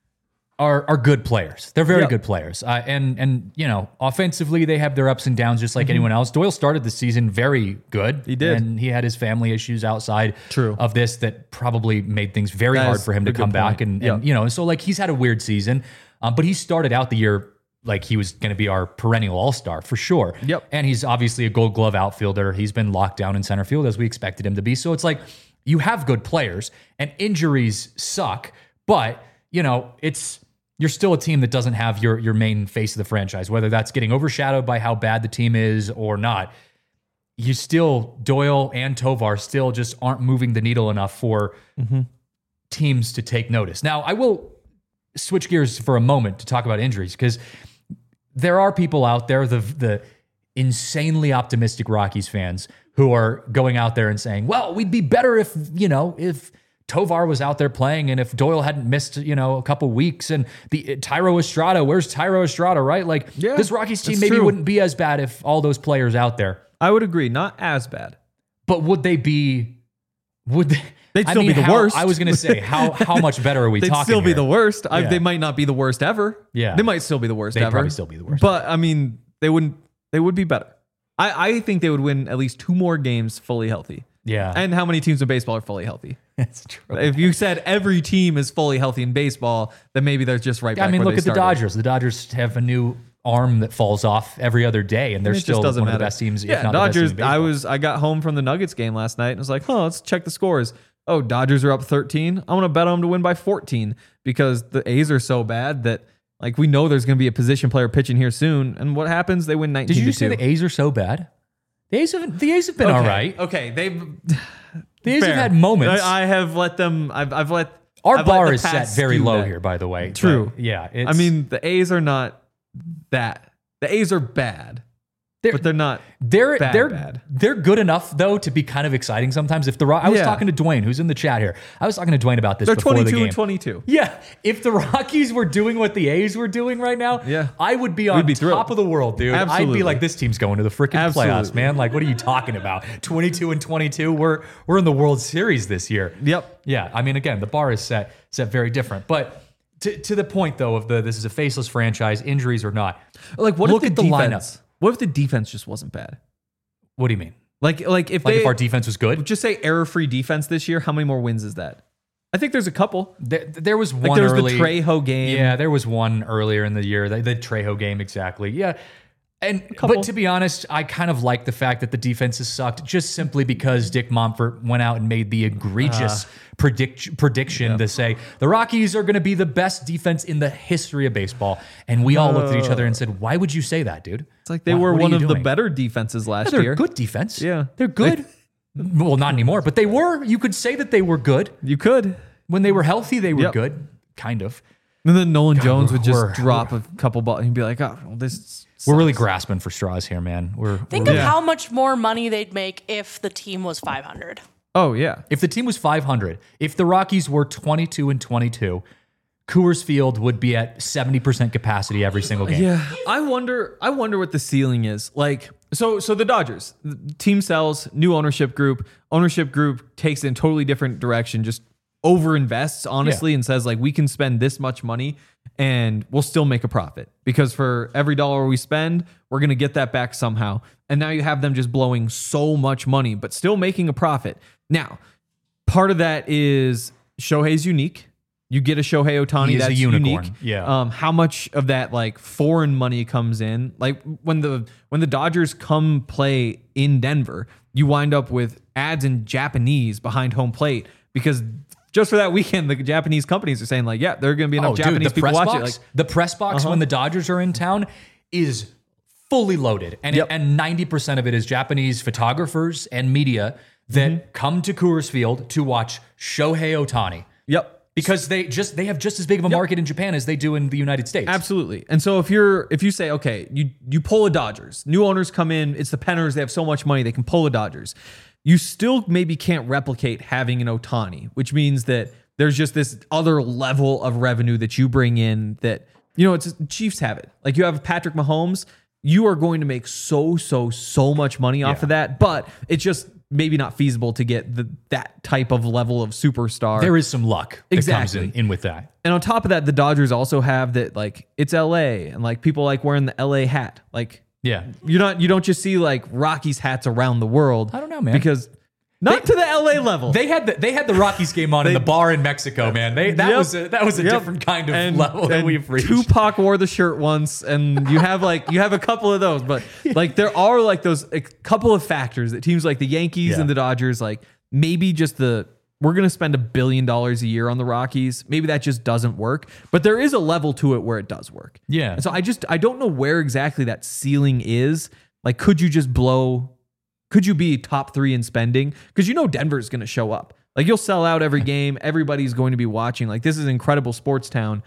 are are good players. They're very yep. good players. Uh, and, and, you know, offensively, they have their ups and downs just like mm-hmm. anyone else. Doyle started the season very good. He did. And he had his family issues outside True. of this that probably made things very that hard for him to come back. And, yep. and, you know, so like he's had a weird season, um, but he started out the year like he was going to be our perennial all-star for sure. Yep. And he's obviously a Gold Glove outfielder. He's been locked down in center field as we expected him to be. So it's like you have good players and injuries suck, but you know, it's you're still a team that doesn't have your your main face of the franchise, whether that's getting overshadowed by how bad the team is or not. You still, Doyle and Tovar still just aren't moving the needle enough for mm-hmm. teams to take notice. Now, I will switch gears for a moment to talk about injuries because there are people out there, the the insanely optimistic Rockies fans who are going out there and saying, well, we'd be better if, you know, if Tovar was out there playing and if Doyle hadn't missed, you know, a couple weeks and the Thairo Estrada, where's Thairo Estrada, right? Like yeah, this Rockies team maybe true. wouldn't be as bad if all those players out there. I would agree. Not as bad. But would they be, would they? They'd still I mean, be the how, worst. I was going to say, how how much better are we They'd talking still be here? the worst. I, Yeah. They might not be the worst ever. Yeah. They might still be the worst They'd ever. probably still be the worst. But I mean, they wouldn't, they would be better. I, I think they would win at least two more games fully healthy. Yeah. And how many teams in baseball are fully healthy? That's true. If you said every team is fully healthy in baseball, then maybe they're just right back I mean, where look they at the started. Dodgers. The Dodgers have a new arm that falls off every other day, and they're It just still one doesn't of the matter. best teams. Yeah, if not Dodgers. The best team in I baseball. was. I got home from the Nuggets game last night and was like, "Oh, let's check the scores." Oh, Dodgers are up thirteen. I want to bet on them to win by fourteen because the A's are so bad that like we know there's going to be a position player pitching here soon. And what happens? They win nineteen. Did you to just say two. the A's are so bad? The A's have the A's have been okay. all right. Okay, they've. The A's Fair. have had moments. I, I have let them. I've. I've let Our I've let bar the is set past very skew low that. here, by the way. True. But yeah. It's, I mean, the A's are not that. The A's are bad, they're, but they're not. They're bad, they're bad. they're good enough though to be kind of exciting sometimes. If the Ro- I was Yeah. talking to Dwayne, who's in the chat here. I was talking to Dwayne about this They're before the twenty-two game. and twenty-two. Yeah, if the Rockies were doing what the A's were doing right now, Yeah. I would be on We'd be top thrilled. of the world, dude. I'd Absolutely. be like, this team's going to the freaking playoffs, Absolutely. man. Like, what are you talking about? twenty-two and twenty-two. We're we're in the World Series this year. Yep. Yeah, I mean, again, the bar is set set very different, but. To, to the point though of the this is a faceless franchise, injuries or not. Like, what Look if at the, the defense? What if the defense just wasn't bad? What do you mean? Like, like if Like they if our defense was good? just say error-free defense this year, how many more wins is that? I think there's a couple. There, there was one Like there was early, the Trejo game. Yeah, there was one earlier in the year, the, the Trejo game exactly. Yeah. And couple. but to be honest, I kind of like the fact that the defense has sucked just simply because Dick Monfort went out and made the egregious Uh, predict, prediction to say the Rockies are going to be the best defense in the history of baseball. And we all looked at each other and said, "Why would you say that, dude?" It's like they Why- were what are one you of the doing? better defenses last Yeah, they're year. good defense. Yeah. They're good. Well, not anymore, but they were. You could say that they were good. You could. When they were healthy, they were Yep. good. Kind of. And then Nolan Jones we're- would just we're- drop a couple balls and be like, "Oh, well, this." We're really sucks." grasping for straws here, man. We're Think we're- of Yeah. how much more money they'd make if the team was five hundred. Oh yeah. If the team was five hundred, if the Rockies were twenty-two and twenty-two, Coors Field would be at seventy percent capacity every single game. Yeah, I wonder. I wonder what the ceiling is. Like, so, so the Dodgers the team sells, new ownership group. Ownership group takes it in a totally different direction. Just overinvests honestly Yeah. and says like we can spend this much money and we'll still make a profit because for every dollar we spend, we're going to get that back somehow. And now you have them just blowing so much money, but still making a profit. Now, part of that is Shohei's unique. You get a Shohei Ohtani He is a that's unicorn. unique. Yeah. Um, how much of that like foreign money comes in? Like when the when the Dodgers come play in Denver, you wind up with ads in Japanese behind home plate because just for that weekend, the Japanese companies are saying like, yeah, there are going to be enough Oh, Japanese dude, the people press watch box, it. Like, the press box Uh-huh. when the Dodgers are in town is fully loaded, and Yep. it, and ninety percent of it is Japanese photographers and media that Mm-hmm. come to Coors Field to watch Shohei Ohtani yep. because they just they have just as big of a market in Japan as they do in the United States. Absolutely. And so if you're if you say, okay, you you pull a Dodgers, new owners come in, it's the Penners, they have so much money, they can pull a Dodgers. You still maybe can't replicate having an Ohtani, which means that there's just this other level of revenue that you bring in that, you know, it's Chiefs have it. Like you have Patrick Mahomes, you are going to make so, so, so much money off Yeah. of that, but it's just maybe not feasible to get the that type of level of superstar. There is some luck that Exactly. comes in, in with that. And on top of that, the Dodgers also have that like it's L A and like people like wearing the L A hat. Like Yeah. you're not you don't just see like Rockies hats around the world. I don't know, man. Because not to the L A level. They had the they had the Rockies game on in They- the bar in Mexico, man. They that Yep. was a, that was a Yep. different kind of And- level that and we've reached. Tupac wore the shirt once, and you have like you have a couple of those, but like there are like those a couple of factors that teams like the Yankees Yeah. and the Dodgers like maybe just the we're gonna spend a billion dollars a year on the Rockies. Maybe that just doesn't work, but there is a level to it where it does work. Yeah. And so I just I don't know where exactly that ceiling is. Like, could you just blow? Could you be top three in spending? Because you know Denver's going to show up. Like you'll sell out every game. Everybody's going to be watching. Like this is an incredible sports town.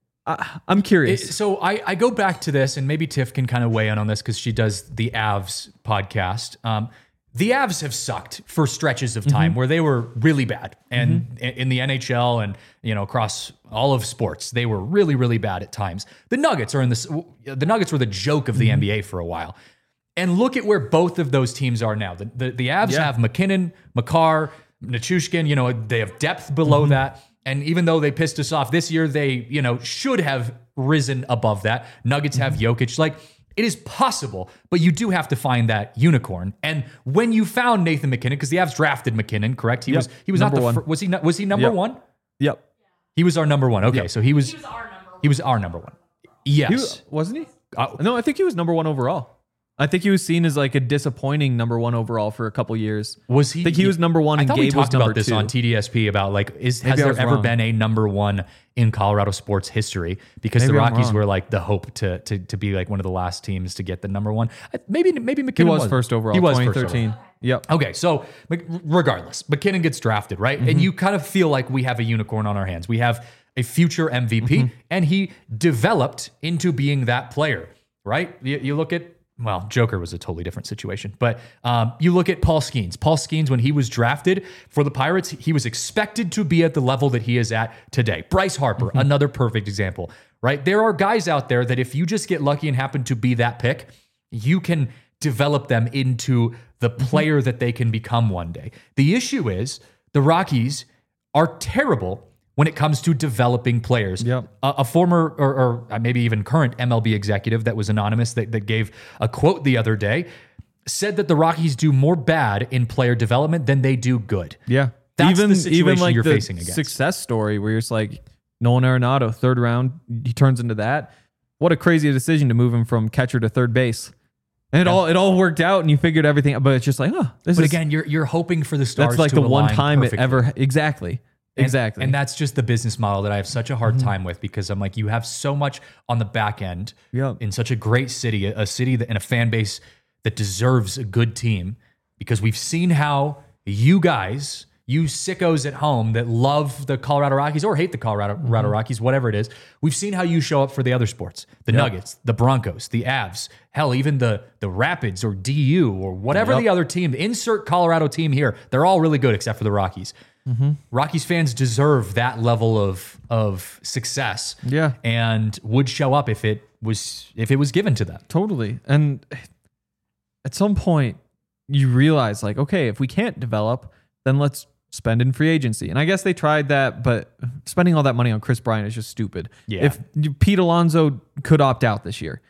I, I'm It- curious. so I, I go back to this, and maybe Tiff can kind of weigh in on this because she does the Avs podcast. Um, the Avs have sucked for stretches of time where they were really bad, and in in the N H L and you know across all of sports, they were really really bad at times. The Nuggets are in this. The Nuggets were the joke of the N B A for a while. And look at where both of those teams are now. The the, the Avs Yeah. have McKinnon, Makar, Nichushkin. You know they have depth below that. And even though they pissed us off this year, they you know should have risen above that. Nuggets have Jokic. Like it is possible, but you do have to find that unicorn. And when you found Nathan McKinnon, because the Avs drafted McKinnon, correct? He Yep. was he was Number not the one. fir- was he not, was he number Yep. one? Yep. He was our number one. Okay, so he was He was our number one. he was our number one. Yes. He was, wasn't he? Uh, No, I think he was number one overall. I think he was seen as like a disappointing number one overall for a couple years. Was he? I think he was number one I and thought Gabe we was talked number about this two. on T D S P about like is has Maybe I there was ever wrong. been a number one in Colorado sports history? Because Maybe the I'm Rockies wrong. were like the hope to to to be like one of the last teams to get the number one. I- Maybe maybe McKinnon He was first overall. He was twenty first thirteen. overall. Yep. Okay, so Mc- regardless, McKinnon gets drafted, right? Mm-hmm. And you kind of feel like we have a unicorn on our hands. We have a future M V P, Mm-hmm. and he developed into being that player, right? You, you look at, well, Joker was a totally different situation, but um, you look at Paul Skeens. Paul Skeens, when he was drafted for the Pirates, he was expected to be at the level that he is at today. Bryce Harper, Mm-hmm. another perfect example, right? There are guys out there that if you just get lucky and happen to be that pick, you can develop them into the Mm-hmm. player that they can become one day. The issue is the Rockies are terrible when it comes to developing players. Yep. A, a former or, or maybe even current M L B executive that was anonymous that, that gave a quote the other day said that the Rockies do more bad in player development than they do good. Yeah. That's even the situation even like you're the facing against. success story where it's like Nolan Arenado, third round, he turns into that. What a crazy decision to move him from catcher to third base. And it all it all worked out and you figured everything, but it's just like, oh, this But is again, you're you're hoping for the stars that's like to the align one time perfectly. it ever exactly. And- Exactly. And that's just the business model that I have such a hard Mm-hmm. time with because I'm like, you have so much on the back end Yep. in such a great city, a, a city that, and a fan base that deserves a good team because we've seen how you guys, you sickos at home that love the Colorado Rockies or hate the Colorado Mm-hmm. Colorado Rockies, whatever it is, we've seen how you show up for the other sports, the Nuggets, the Broncos, the Avs, hell, even the the Rapids or D U or whatever Yep. the other team, insert Colorado team here. They're all really good except for the Rockies. Rockies fans deserve that level of of success. Yeah. And would show up if it was if it was given to them. Totally. And at some point, you realize, like, okay, if we can't develop, then let's spend in free agency. And I guess they tried that, but spending all that money on Chris Bryant is just stupid. Yeah. If Pete Alonso could opt out this year,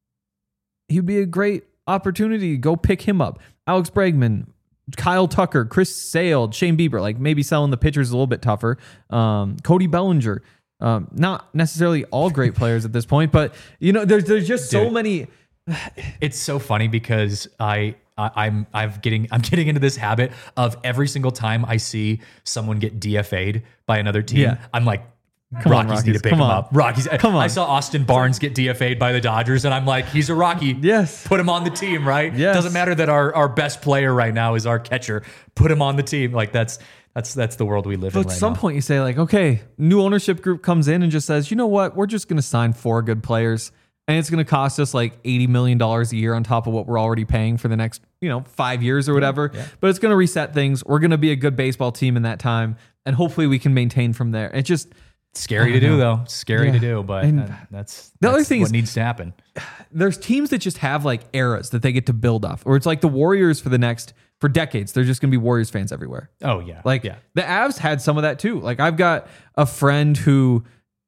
he'd be a great opportunity. Go pick him up. Alex Bregman, Kyle Tucker, Chris Sale, Shane Bieber, like maybe selling the pitchers a little bit tougher. Um, Cody Bellinger, um, not necessarily all great players at this point, but you know, there's there's just so Dude, many. It's so funny because I, I I'm I'm getting I'm getting into this habit of every single time I see someone get D F A'd by another team, Yeah. I'm like, Come on, Rockies need to Rockies. pick Come him on. up. Rockies. Come on. I saw Austin Barnes get D F A'd by the Dodgers, and I'm like, he's a Rocky. Yes. Put him on the team, right? Yes. Doesn't matter that our, our best player right now is our catcher. Put him on the team. Like that's that's that's the world we live But in at right some now. point, you say like, okay, new ownership group comes in and just says, you know what, we're just going to sign four good players, and it's going to cost us like eighty million dollars a year on top of what we're already paying for the next, you know, five years or whatever. yeah. But it's going to reset things. We're going to be a good baseball team in that time, and hopefully we can maintain from there. It just Scary I to don't do know. though. Scary Yeah. to do, but And uh, that's the other that's thing what is- needs to happen. there's teams that just have like eras that they get to build off, or it's like the Warriors for the next for decades. They're just going to be Warriors fans everywhere. Oh yeah. Like yeah. the Avs had some of that too. Like I've got a friend who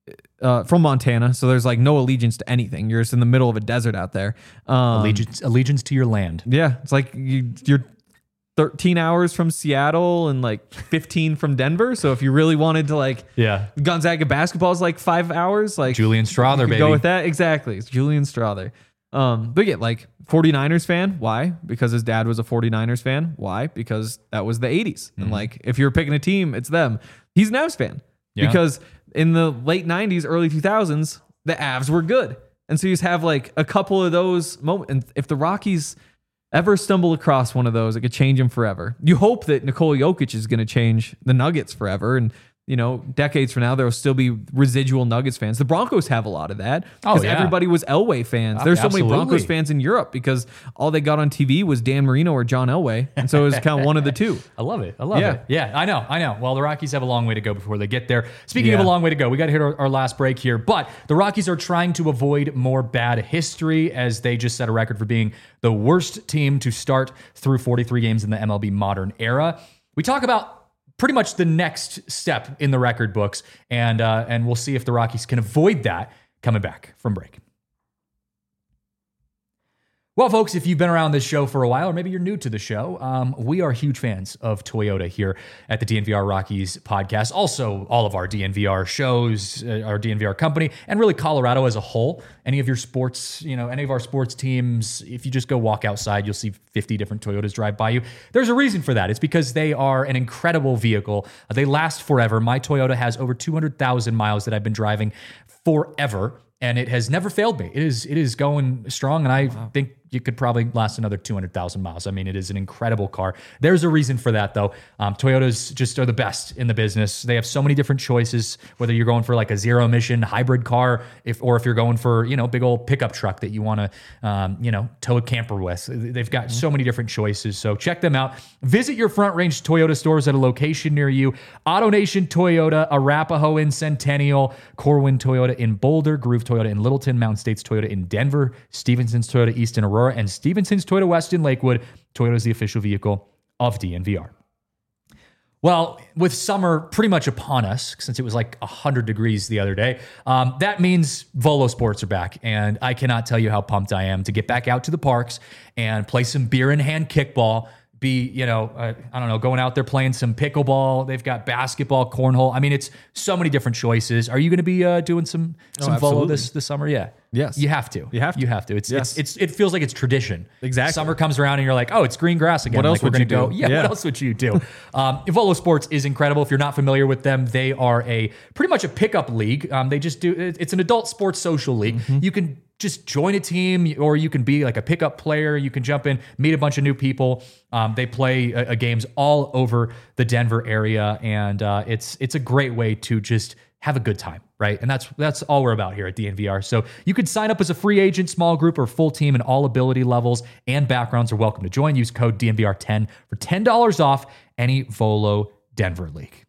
uh, from Montana, so there's like no allegiance to anything. You're just in the middle of a desert out there. Um, Allegiance allegiance to your land. Yeah, it's like you, you're thirteen hours from Seattle and like fifteen from Denver. So if you really wanted to like Yeah. Gonzaga basketball is like five hours. Like Julian Strother, you could baby. go with that. Exactly. It's Julian Strother. Um, but yeah, like 49ers fan. Why? Because his dad was a 49ers fan. Why? Because that was the eighties. Mm-hmm. And like, if you're picking a team, it's them. He's an Avs fan Yeah. because in the late nineties, early two thousands, the Avs were good. And so you just have like a couple of those moments. And if the Rockies ever stumble across one of those, it could change them forever. You hope that Nikola Jokic is going to change the Nuggets forever. And, you know, decades from now, there will still be residual Nuggets fans. The Broncos have a lot of that because Oh, yeah. everybody was Elway fans. There's so many Absolutely. Broncos fans in Europe because all they got on T V was Dan Marino or John Elway. And so it was kind of one of the two. I love it. I love Yeah. it. Yeah, I know. I know. Well, the Rockies have a long way to go before they get there. Speaking of Yeah. a long way to go, we got to hit our, our last break here. But the Rockies are trying to avoid more bad history as they just set a record for being the worst team to start through forty-three games in the M L B modern era. We talk about pretty much the next step in the record books, and uh, and we'll see if the Rockies can avoid that coming back from break. Well, folks, if you've been around this show for a while, or maybe you're new to the show, um, we are huge fans of Toyota here at the D N V R Rockies podcast. Also, all of our D N V R shows, uh, our D N V R company, and really Colorado as a whole. Any of your sports, you know, any of our sports teams, if you just go walk outside, you'll see fifty different Toyotas drive by you. There's a reason for that. It's because they are an incredible vehicle. Uh, they last forever. My Toyota has over two hundred thousand miles that I've been driving forever, and it has never failed me. It is it is going strong, and I wow. think you could probably last another two hundred thousand miles. I mean, it is an incredible car. There's a reason for that, though. Um, Toyotas just are the best in the business. They have so many different choices, whether you're going for like a zero emission hybrid car, if or if you're going for, you know, big old pickup truck that you want to, um, you know, tow a camper with. They've got mm-hmm. so many different choices. So check them out. Visit your Front Range Toyota stores at a location near you. AutoNation Toyota, Arapahoe in Centennial, Corwin Toyota in Boulder, Groove Toyota in Littleton, Mountain States Toyota in Denver, Stevenson's Toyota East in Aurora, and Stevenson's Toyota West in Lakewood. Toyota is the official vehicle of D N V R. Well, with summer pretty much upon us, since it was like one hundred degrees the other day, um, that means Volo Sports are back. And I cannot tell you how pumped I am to get back out to the parks and play some beer in hand kickball. Be, you know, uh, I don't know, going out there playing some pickleball. They've got basketball, cornhole. I mean, it's so many different choices. Are you going to be uh, doing some some Oh, Volo this this summer? Yeah. Yes. You have to. You have to. You have to. It's, Yes. it's it's it feels like it's tradition. Exactly. Summer comes around and you're like, oh, it's green grass again. What else like, would we're you gonna do? go. Yeah, Yeah. What else would you do? um, Volo Sports is incredible. If you're not familiar with them, they are a pretty much a pickup league. Um, they just do. It's an adult sports social league. Mm-hmm. You can just join a team, or you can be like a pickup player. You can jump in, meet a bunch of new people. Um, they play uh, games all over the Denver area, and uh, it's it's a great way to just have a good time, right? And that's that's all we're about here at D N V R. So you could sign up as a free agent, small group, or full team, and all ability levels and backgrounds are welcome to join. Use code D N V R ten for ten dollars off any Volo Denver league.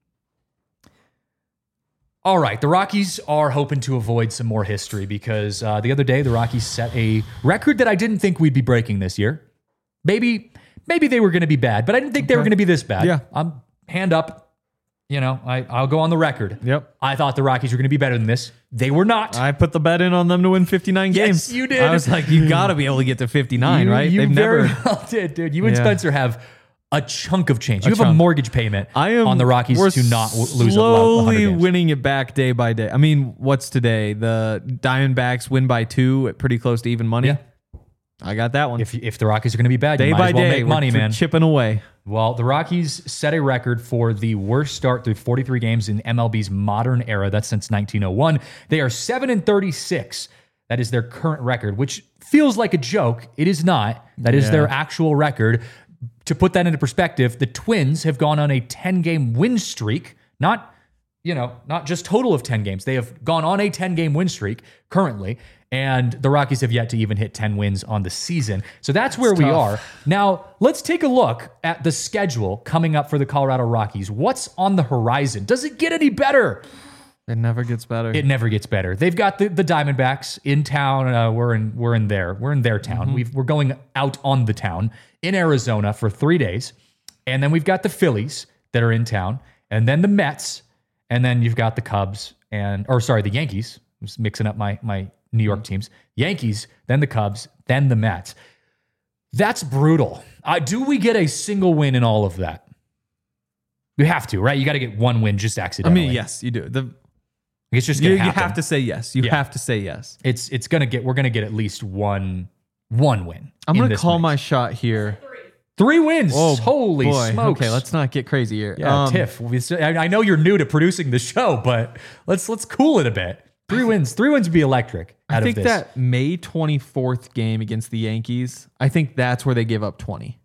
All right, the Rockies are hoping to avoid some more history because uh, the other day the Rockies set a record that I didn't think we'd be breaking this year. Maybe, maybe they were going to be bad, but I didn't think they were going to be this bad. Yeah. I'm hand up, you know, I, I'll go on the record. Yep. I thought the Rockies were going to be better than this. They were not. I put the bet in on them to win fifty-nine Yes, games. you did. I was like, you got to be able to get to fifty-nine, you, right? You They've very never. well did, dude. You and Yeah. Spencer have a chunk of change. You A have a chunk. mortgage payment I am on the Rockies we're to not w- lose a lo- one hundred slowly games. winning it back day by day. I mean, what's today? The Diamondbacks win by two at pretty close to even money. Yeah. I got that one. If, if the Rockies are going to be bad, day you might by as well day, make money, we're man. chipping away. Well, the Rockies set a record for the worst start through forty-three games in M L B's modern era. That's since nineteen oh one. They are seven and thirty-six. That is their current record, which feels like a joke. It is not. That is Yeah. their actual record. To put that into perspective, the Twins have gone on a ten-game win streak. Not, you know, not just total of ten games. They have gone on a ten-game win streak currently. And the Rockies have yet to even hit ten wins on the season. So that's where we tough. are. Now, let's take a look at the schedule coming up for the Colorado Rockies. What's on the horizon? Does it get any better? It never gets better. It never gets better. They've got the, the Diamondbacks in town. Uh, we're in we're in there. We're in their town. We've, we're going out on the town in Arizona for three days. And then we've got the Phillies that are in town. And then the Mets. And then you've got the Cubs and, or sorry, the Yankees. I'm just mixing up my, my New York teams. Yankees, then the Cubs, then the Mets. That's brutal. Uh, do we get a single win in all of that? You have to, right? You got to get one win just I accidentally. mean, yes, you do. The, It's just you, going you to happen. have to say yes. You Yeah. have to say yes. It's it's gonna get we're gonna get at least one one win. I'm in going to this call mix. my shot here. three wins. Oh, Holy boy. smokes! Okay, let's not get crazy here. yeah, Um, Tiff. we- I I know you're new to producing the show, but let's let's cool it a bit. Three wins. Three wins would be electric. Out I think of this. that May twenty-fourth game against the Yankees, I think that's where they give up twenty.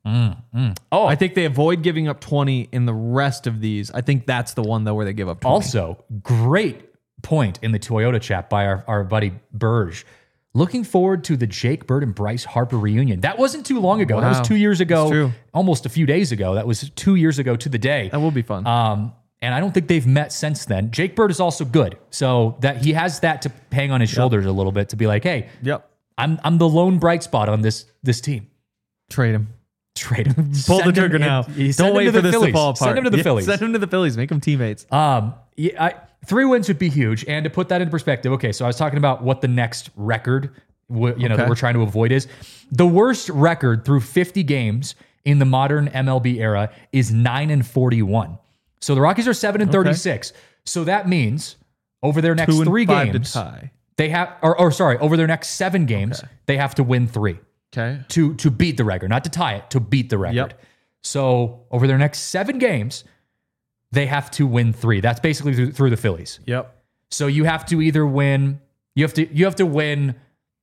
Oh, I think they avoid giving up twenty in the rest of these. I think that's the one, though, where they give up twenty. also great point in the Toyota chat by our, our buddy Burge. Looking forward to the Jake Bird and Bryce Harper reunion. That wasn't too long ago. That Wow. was two years ago. It's true. Almost a few days ago. That was two years ago to the day. That will be fun. Um, and I don't think they've met since then. Jake Bird is also good, so that he has that to hang on his shoulders a little bit to be like, hey, yep. I'm I'm the lone bright spot on this this team. Trade him. Trade him. Pull Send the trigger him- now. he- send Don't him wait to for the this Phillies. to fall apart. Send him to the Yeah, Phillies. Send him to the Phillies. Make them teammates. Um, yeah, I, three wins would be huge. And to put that in perspective, okay, so I was talking about what the next record, w- you know, that Okay. we're trying to avoid is. The worst record through fifty games in the modern M L B era is nine and forty-one. So the Rockies are seven and thirty-six. So that means over their next Two and three five games, to tie. they have, or, or sorry, over their next seven games, Okay. they have to win three Okay. to to beat the record, not to tie it, to beat the record. Yep. So over their next seven games, they have to win three. That's basically through, through the Phillies. Yep. So you have to either win, you have to you have to win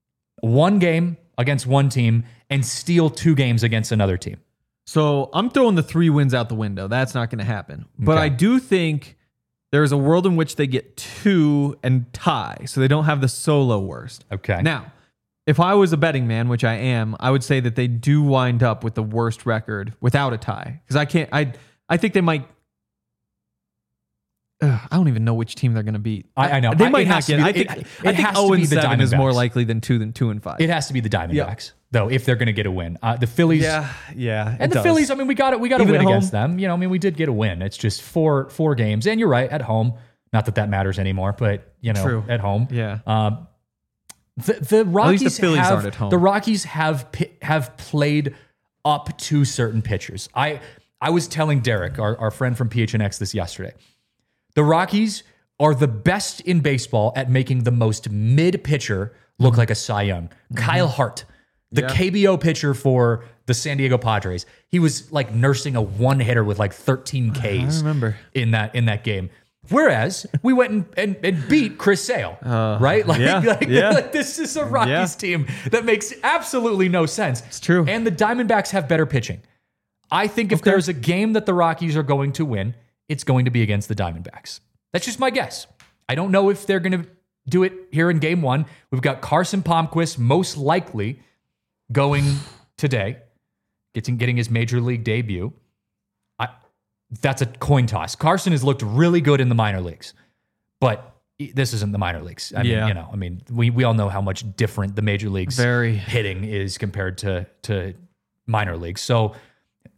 one game against one team and steal two games against another team. So I'm throwing the three wins out the window. That's not going to happen. But Okay. I do think there's a world in which they get two and tie, so they don't have the solo worst. Okay. Now, if I was a betting man, which I am, I would say that they do wind up with the worst record without a tie. Because I can't. I I think they might. Ugh, I don't even know which team they're going to beat. I- I know. They I- might it not has to get. be- I think. it- it I think has to zero be and the seven is more Diamondbacks. likely than two than two and five. It has to be the Diamondbacks, though, if they're going to get a win. Uh, the Phillies, yeah, yeah. and the Phillies. I mean, we got it. We got to Even win at against home? them. You know, I mean, we did get a win. It's just four four games, and you're right, at home. Not that that matters anymore, but you know, True. at home. Yeah. Um, the the Rockies least the Phillies have, aren't at home. The Rockies have pi- have played up to certain pitchers. I I was telling Derek, our, our friend from P H N X, this yesterday. The Rockies are the best in baseball at making the most mid pitcher look like a Cy Young. Kyle Hart, the Yeah. K B O pitcher for the San Diego Padres. He was like nursing a one hitter with like thirteen Ks. I remember. in that in that game. Whereas we went and, and, and beat Chris Sale, right? Like, yeah, like, yeah. like this is a Rockies Yeah. team that makes absolutely no sense. It's true. And the Diamondbacks have better pitching. I think if Okay. there's a game that the Rockies are going to win, it's going to be against the Diamondbacks. That's just my guess. I don't know if they're going to do it here in game one. We've got Carson Palmquist most likely going today, getting, getting his major league debut. I, that's a coin toss. Carson has looked really good in the minor leagues, but this isn't the minor leagues. I Yeah. mean, you know, I mean, we, we all know how much different the major leagues Very. hitting is compared to, to minor leagues. So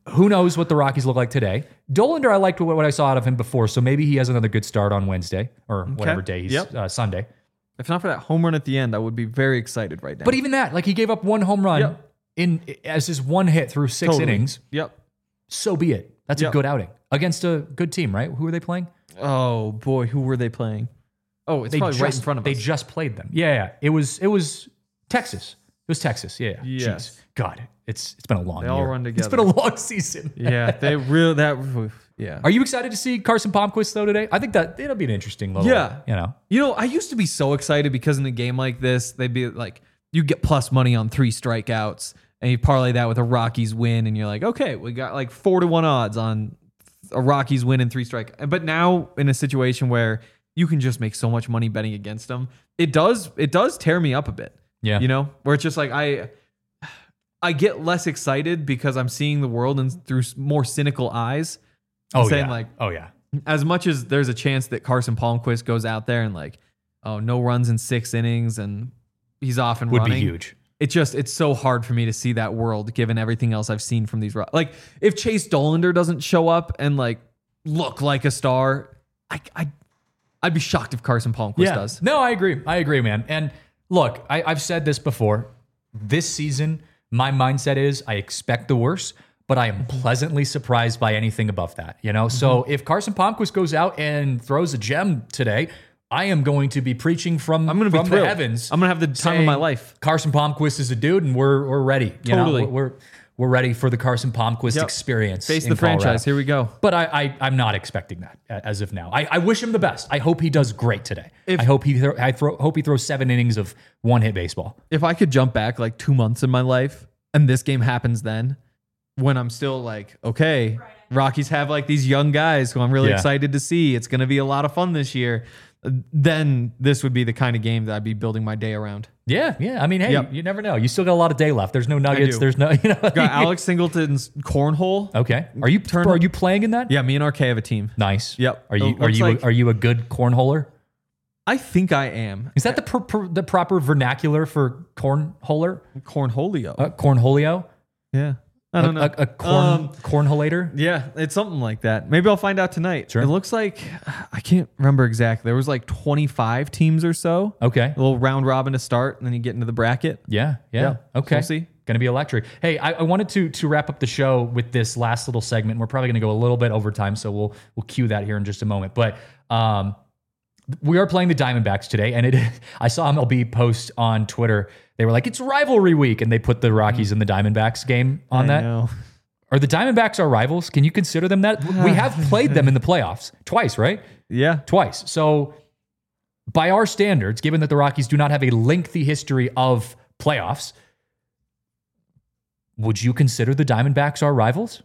who knows what the Rockies look like today? Dollander, I liked what, what I saw out of him before, so maybe he has another good start on Wednesday or whatever day he's Yep. uh, Sunday. If not for that home run at the end, I would be very excited right now. But even that, like he gave up one home run Yep. in as his one hit through six Totally. innings. Yep. So be it. That's a Yep. good outing against a good team, right? Who are they playing? Oh boy, who were they playing? Oh, it's They probably just, right in front of they us. just played them. Yeah, yeah. It was it was Texas. It was Texas. Yeah. yeah. Yes. Jeez. God, it's it's been a long They year. all run It's together. been a long season. yeah, they really that. Yeah. Are you excited to see Carson Palmquist though today? I think that it'll be an interesting little. Yeah. You know. You know, I used to be so excited because in a game like this, they'd be like, you get plus money on three strikeouts, and you parlay that with a Rockies win, and you're like, okay, we got like four to one odds on a Rockies win and three strike. But now in a situation where you can just make so much money betting against them, it does it does tear me up a bit. Yeah. You know, where it's just like I I get less excited because I'm seeing the world and through more cynical eyes. I'm Oh saying yeah. like oh yeah. as much as there's a chance that Carson Palmquist goes out there and like, oh, no runs in six innings and he's off and Would running. be huge. It just, it's so hard for me to see that world given everything else I've seen from these. Ro- Like if Chase Dollander doesn't show up and like look like a star, I, I, I'd be shocked if Carson Palmquist does. No, I agree. I agree, man. And look, I, I've said this before. This season, my mindset is I expect the worst, but I am pleasantly surprised by anything above that. You know, so if Carson Palmquist goes out and throws a gem today, I am going to be preaching from, I'm gonna be from the thrilled. heavens. I'm gonna have the time of my saying, life. Carson Palmquist is a dude, and we're we're ready. You Totally. know, we're we're ready for the Carson Palmquist Yep. experience. Face in the Colorado. franchise. Here we go. But I, I, I'm not expecting that a- as of now. I, I wish him the best. I hope he does great today. If- I hope he thro- I throw, hope he throws seven innings of one hit baseball. If I could jump back like two months in my life and this game happens then, when I'm still like, okay, Rockies have like these young guys who I'm really Yeah. excited to see. It's going to be a lot of fun this year. Then this would be the kind of game that I'd be building my day around. Yeah, yeah. I mean, hey, Yep. you never know. You still got a lot of day left. There's no Nuggets. do. There's no, you know. Got Alex Singleton's cornhole. Okay. Are you Turn- are you playing in that? Yeah, me and R K have a team. Nice. Yep. Are you It are looks you like- are you a good cornholer? I think I am. Is that the pr- pr- the proper vernacular for cornholer? Cornholio. Uh, cornholio? yeah. I don't know. A, a, a corn Um, cornholator? Yeah, it's something like that. Maybe I'll find out tonight. Sure. It looks like I can't remember exactly. There was like twenty-five teams or so. Okay. A little round robin to start, and then you get into the bracket. Yeah, yeah. Yeah, Okay. we'll see. Going to be electric. Hey, I, I wanted to to wrap up the show with this last little segment. We're probably going to go a little bit over time, so we'll we'll cue that here in just a moment. But um, we are playing the Diamondbacks today, and it I saw M L B post on Twitter. They were like, "It's rivalry week," and they put the Rockies and the Diamondbacks game on I that. know. Are the Diamondbacks our rivals? Can you consider them that? We have played them in the playoffs twice, right? Yeah. Twice. So, by our standards, given that the Rockies do not have a lengthy history of playoffs, would you consider the Diamondbacks our rivals?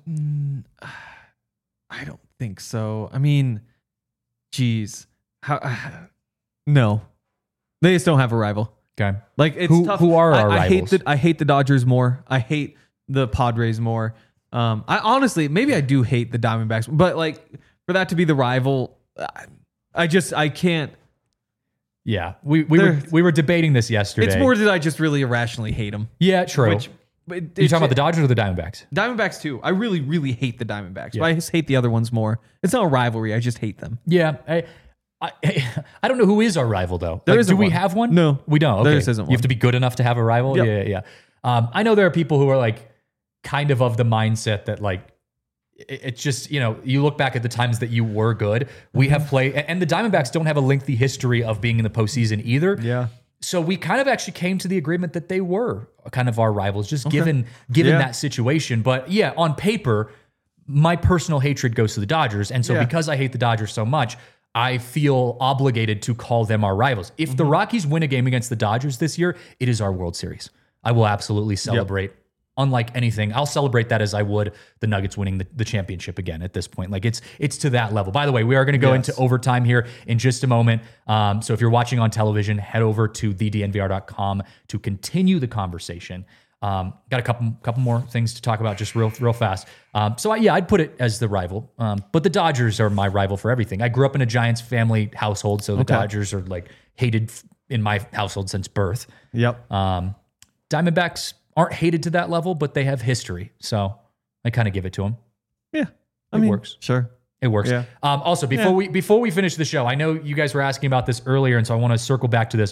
I don't think so. I mean, geez. How, no. They just don't have a rival. Okay. Like it's Who- tough. who are I, our I hate rivals? the I hate the Dodgers more. I hate the Padres more. Um, I honestly maybe I do hate the Diamondbacks, but like for that to be the rival, I, I just I can't. Yeah. We we were They're- we were debating this yesterday. It's more that I just really irrationally hate them. Yeah, true. Which but you talking about the Dodgers or the Diamondbacks? Diamondbacks too? I really really hate the Diamondbacks, Yeah. but I just hate the other ones more. It's not a rivalry. I just hate them. Yeah. I, I, I don't know who is our rival though. There Like, isn't do we one. have one? No. we don't. There Okay. just isn't You have one. to be good enough to have a rival. Yep. Yeah, yeah. yeah. Um, I know there are people who are like kind of of the mindset that like it- it's just, you know, you look back at the times that you were good. We have played, and the Diamondbacks don't have a lengthy history of being in the postseason either. Yeah. So we kind of actually came to the agreement that they were kind of our rivals, just given given Yeah. that situation. But yeah, on paper, my personal hatred goes to the Dodgers, and so Yeah. because I hate the Dodgers so much, I feel obligated to call them our rivals. If the Rockies win a game against the Dodgers this year, it is our World Series. I will absolutely celebrate. Unlike anything, I'll celebrate that as I would the Nuggets winning the, the championship again at this point. Like it's it's to that level. By the way, we are going to go Yes. into overtime here in just a moment. Um, so if you're watching on television, head over to the d n v r dot com to continue the conversation. Um, got a couple couple more things to talk about just real real fast. Um, so I, yeah, I'd put it as the rival. Um, but the Dodgers are my rival for everything. I grew up in a Giants family household, so the Okay. Dodgers are like hated f- in my household since birth. Yep. Um, Diamondbacks aren't hated to that level, but they have history. So I kind of give it to them. Yeah. I It mean, works. Sure. It works. Yeah. Um, also, before Yeah. we before we finish the show, I know you guys were asking about this earlier, and so I want to circle back to this.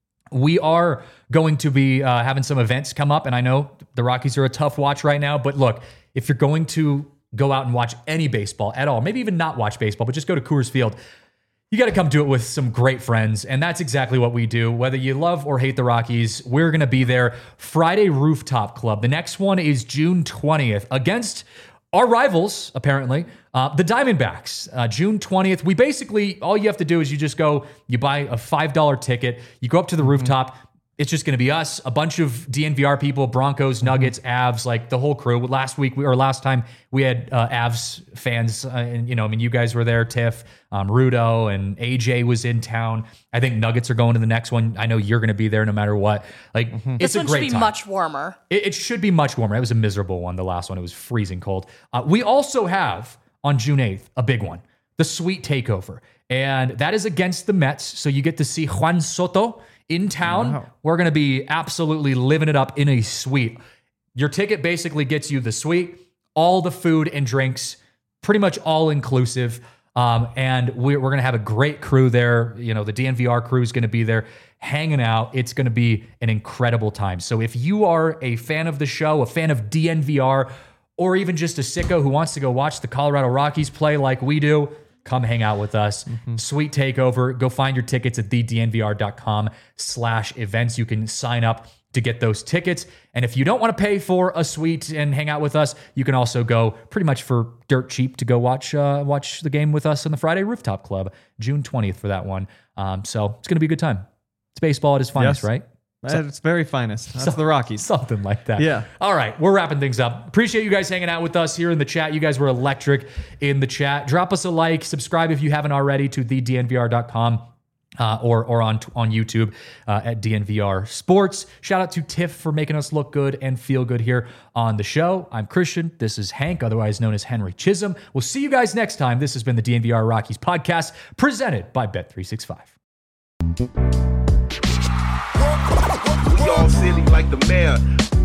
We are going to be uh, having some events come up, and I know the Rockies are a tough watch right now, but look, if you're going to go out and watch any baseball at all, maybe even not watch baseball, but just go to Coors Field, you got to come do it with some great friends, and that's exactly what we do. Whether you love or hate the Rockies, we're going to be there. Friday Rooftop Club. The next one is June twentieth against our rivals, apparently, uh, the Diamondbacks. Uh, June twentieth. We basically, all you have to do is you just go, you buy a five dollar ticket, you go up to the rooftop. It's just going to be us, a bunch of D N V R people, Broncos, Nuggets, Avs, like the whole crew. Last week, we, or last time, we had uh, Avs fans, uh, and you know, I mean, you guys were there, Tiff, um, Rudo, and A J was in town. I think Nuggets are going to the next one. I know you're going to be there no matter what. Like, This it's a one great should be time. much warmer. It, it should be much warmer. It was a miserable one, the last one. It was freezing cold. Uh, we also have, on June eighth, a big one, the Sweet Takeover. And that is against the Mets, so you get to see Juan Soto in town. Wow. We're going to be absolutely living it up in a suite. Your ticket basically gets you the suite, all the food and drinks, pretty much all inclusive. Um, and we're, we're going to have a great crew there. You know, the D N V R crew is going to be there hanging out. It's going to be an incredible time. So if you are a fan of the show, a fan of D N V R, or even just a sicko who wants to go watch the Colorado Rockies play like we do, come hang out with us. Mm-hmm. Sweet Takeover. Go find your tickets at the d n v r dot com slash events. You can sign up to get those tickets. And if you don't want to pay for a suite and hang out with us, you can also go pretty much for dirt cheap to go watch uh, watch the game with us on the Friday Rooftop Club, June twentieth for that one. Um, so it's going to be a good time. It's baseball at its finest, Yes. right? At its very finest. That's the Rockies. Something like that. Yeah. All right. We're wrapping things up. Appreciate you guys hanging out with us here in the chat. You guys were electric in the chat. Drop us a like. Subscribe if you haven't already to the d n v r dot com uh, or, or on, on YouTube uh, at D N V R Sports. Shout out to Tiff for making us look good and feel good here on the show. I'm Christian. This is Hank, otherwise known as Henry Chisholm. We'll see you guys next time. This has been the D N V R Rockies podcast presented by Bet three sixty-five. We all silly like the mayor.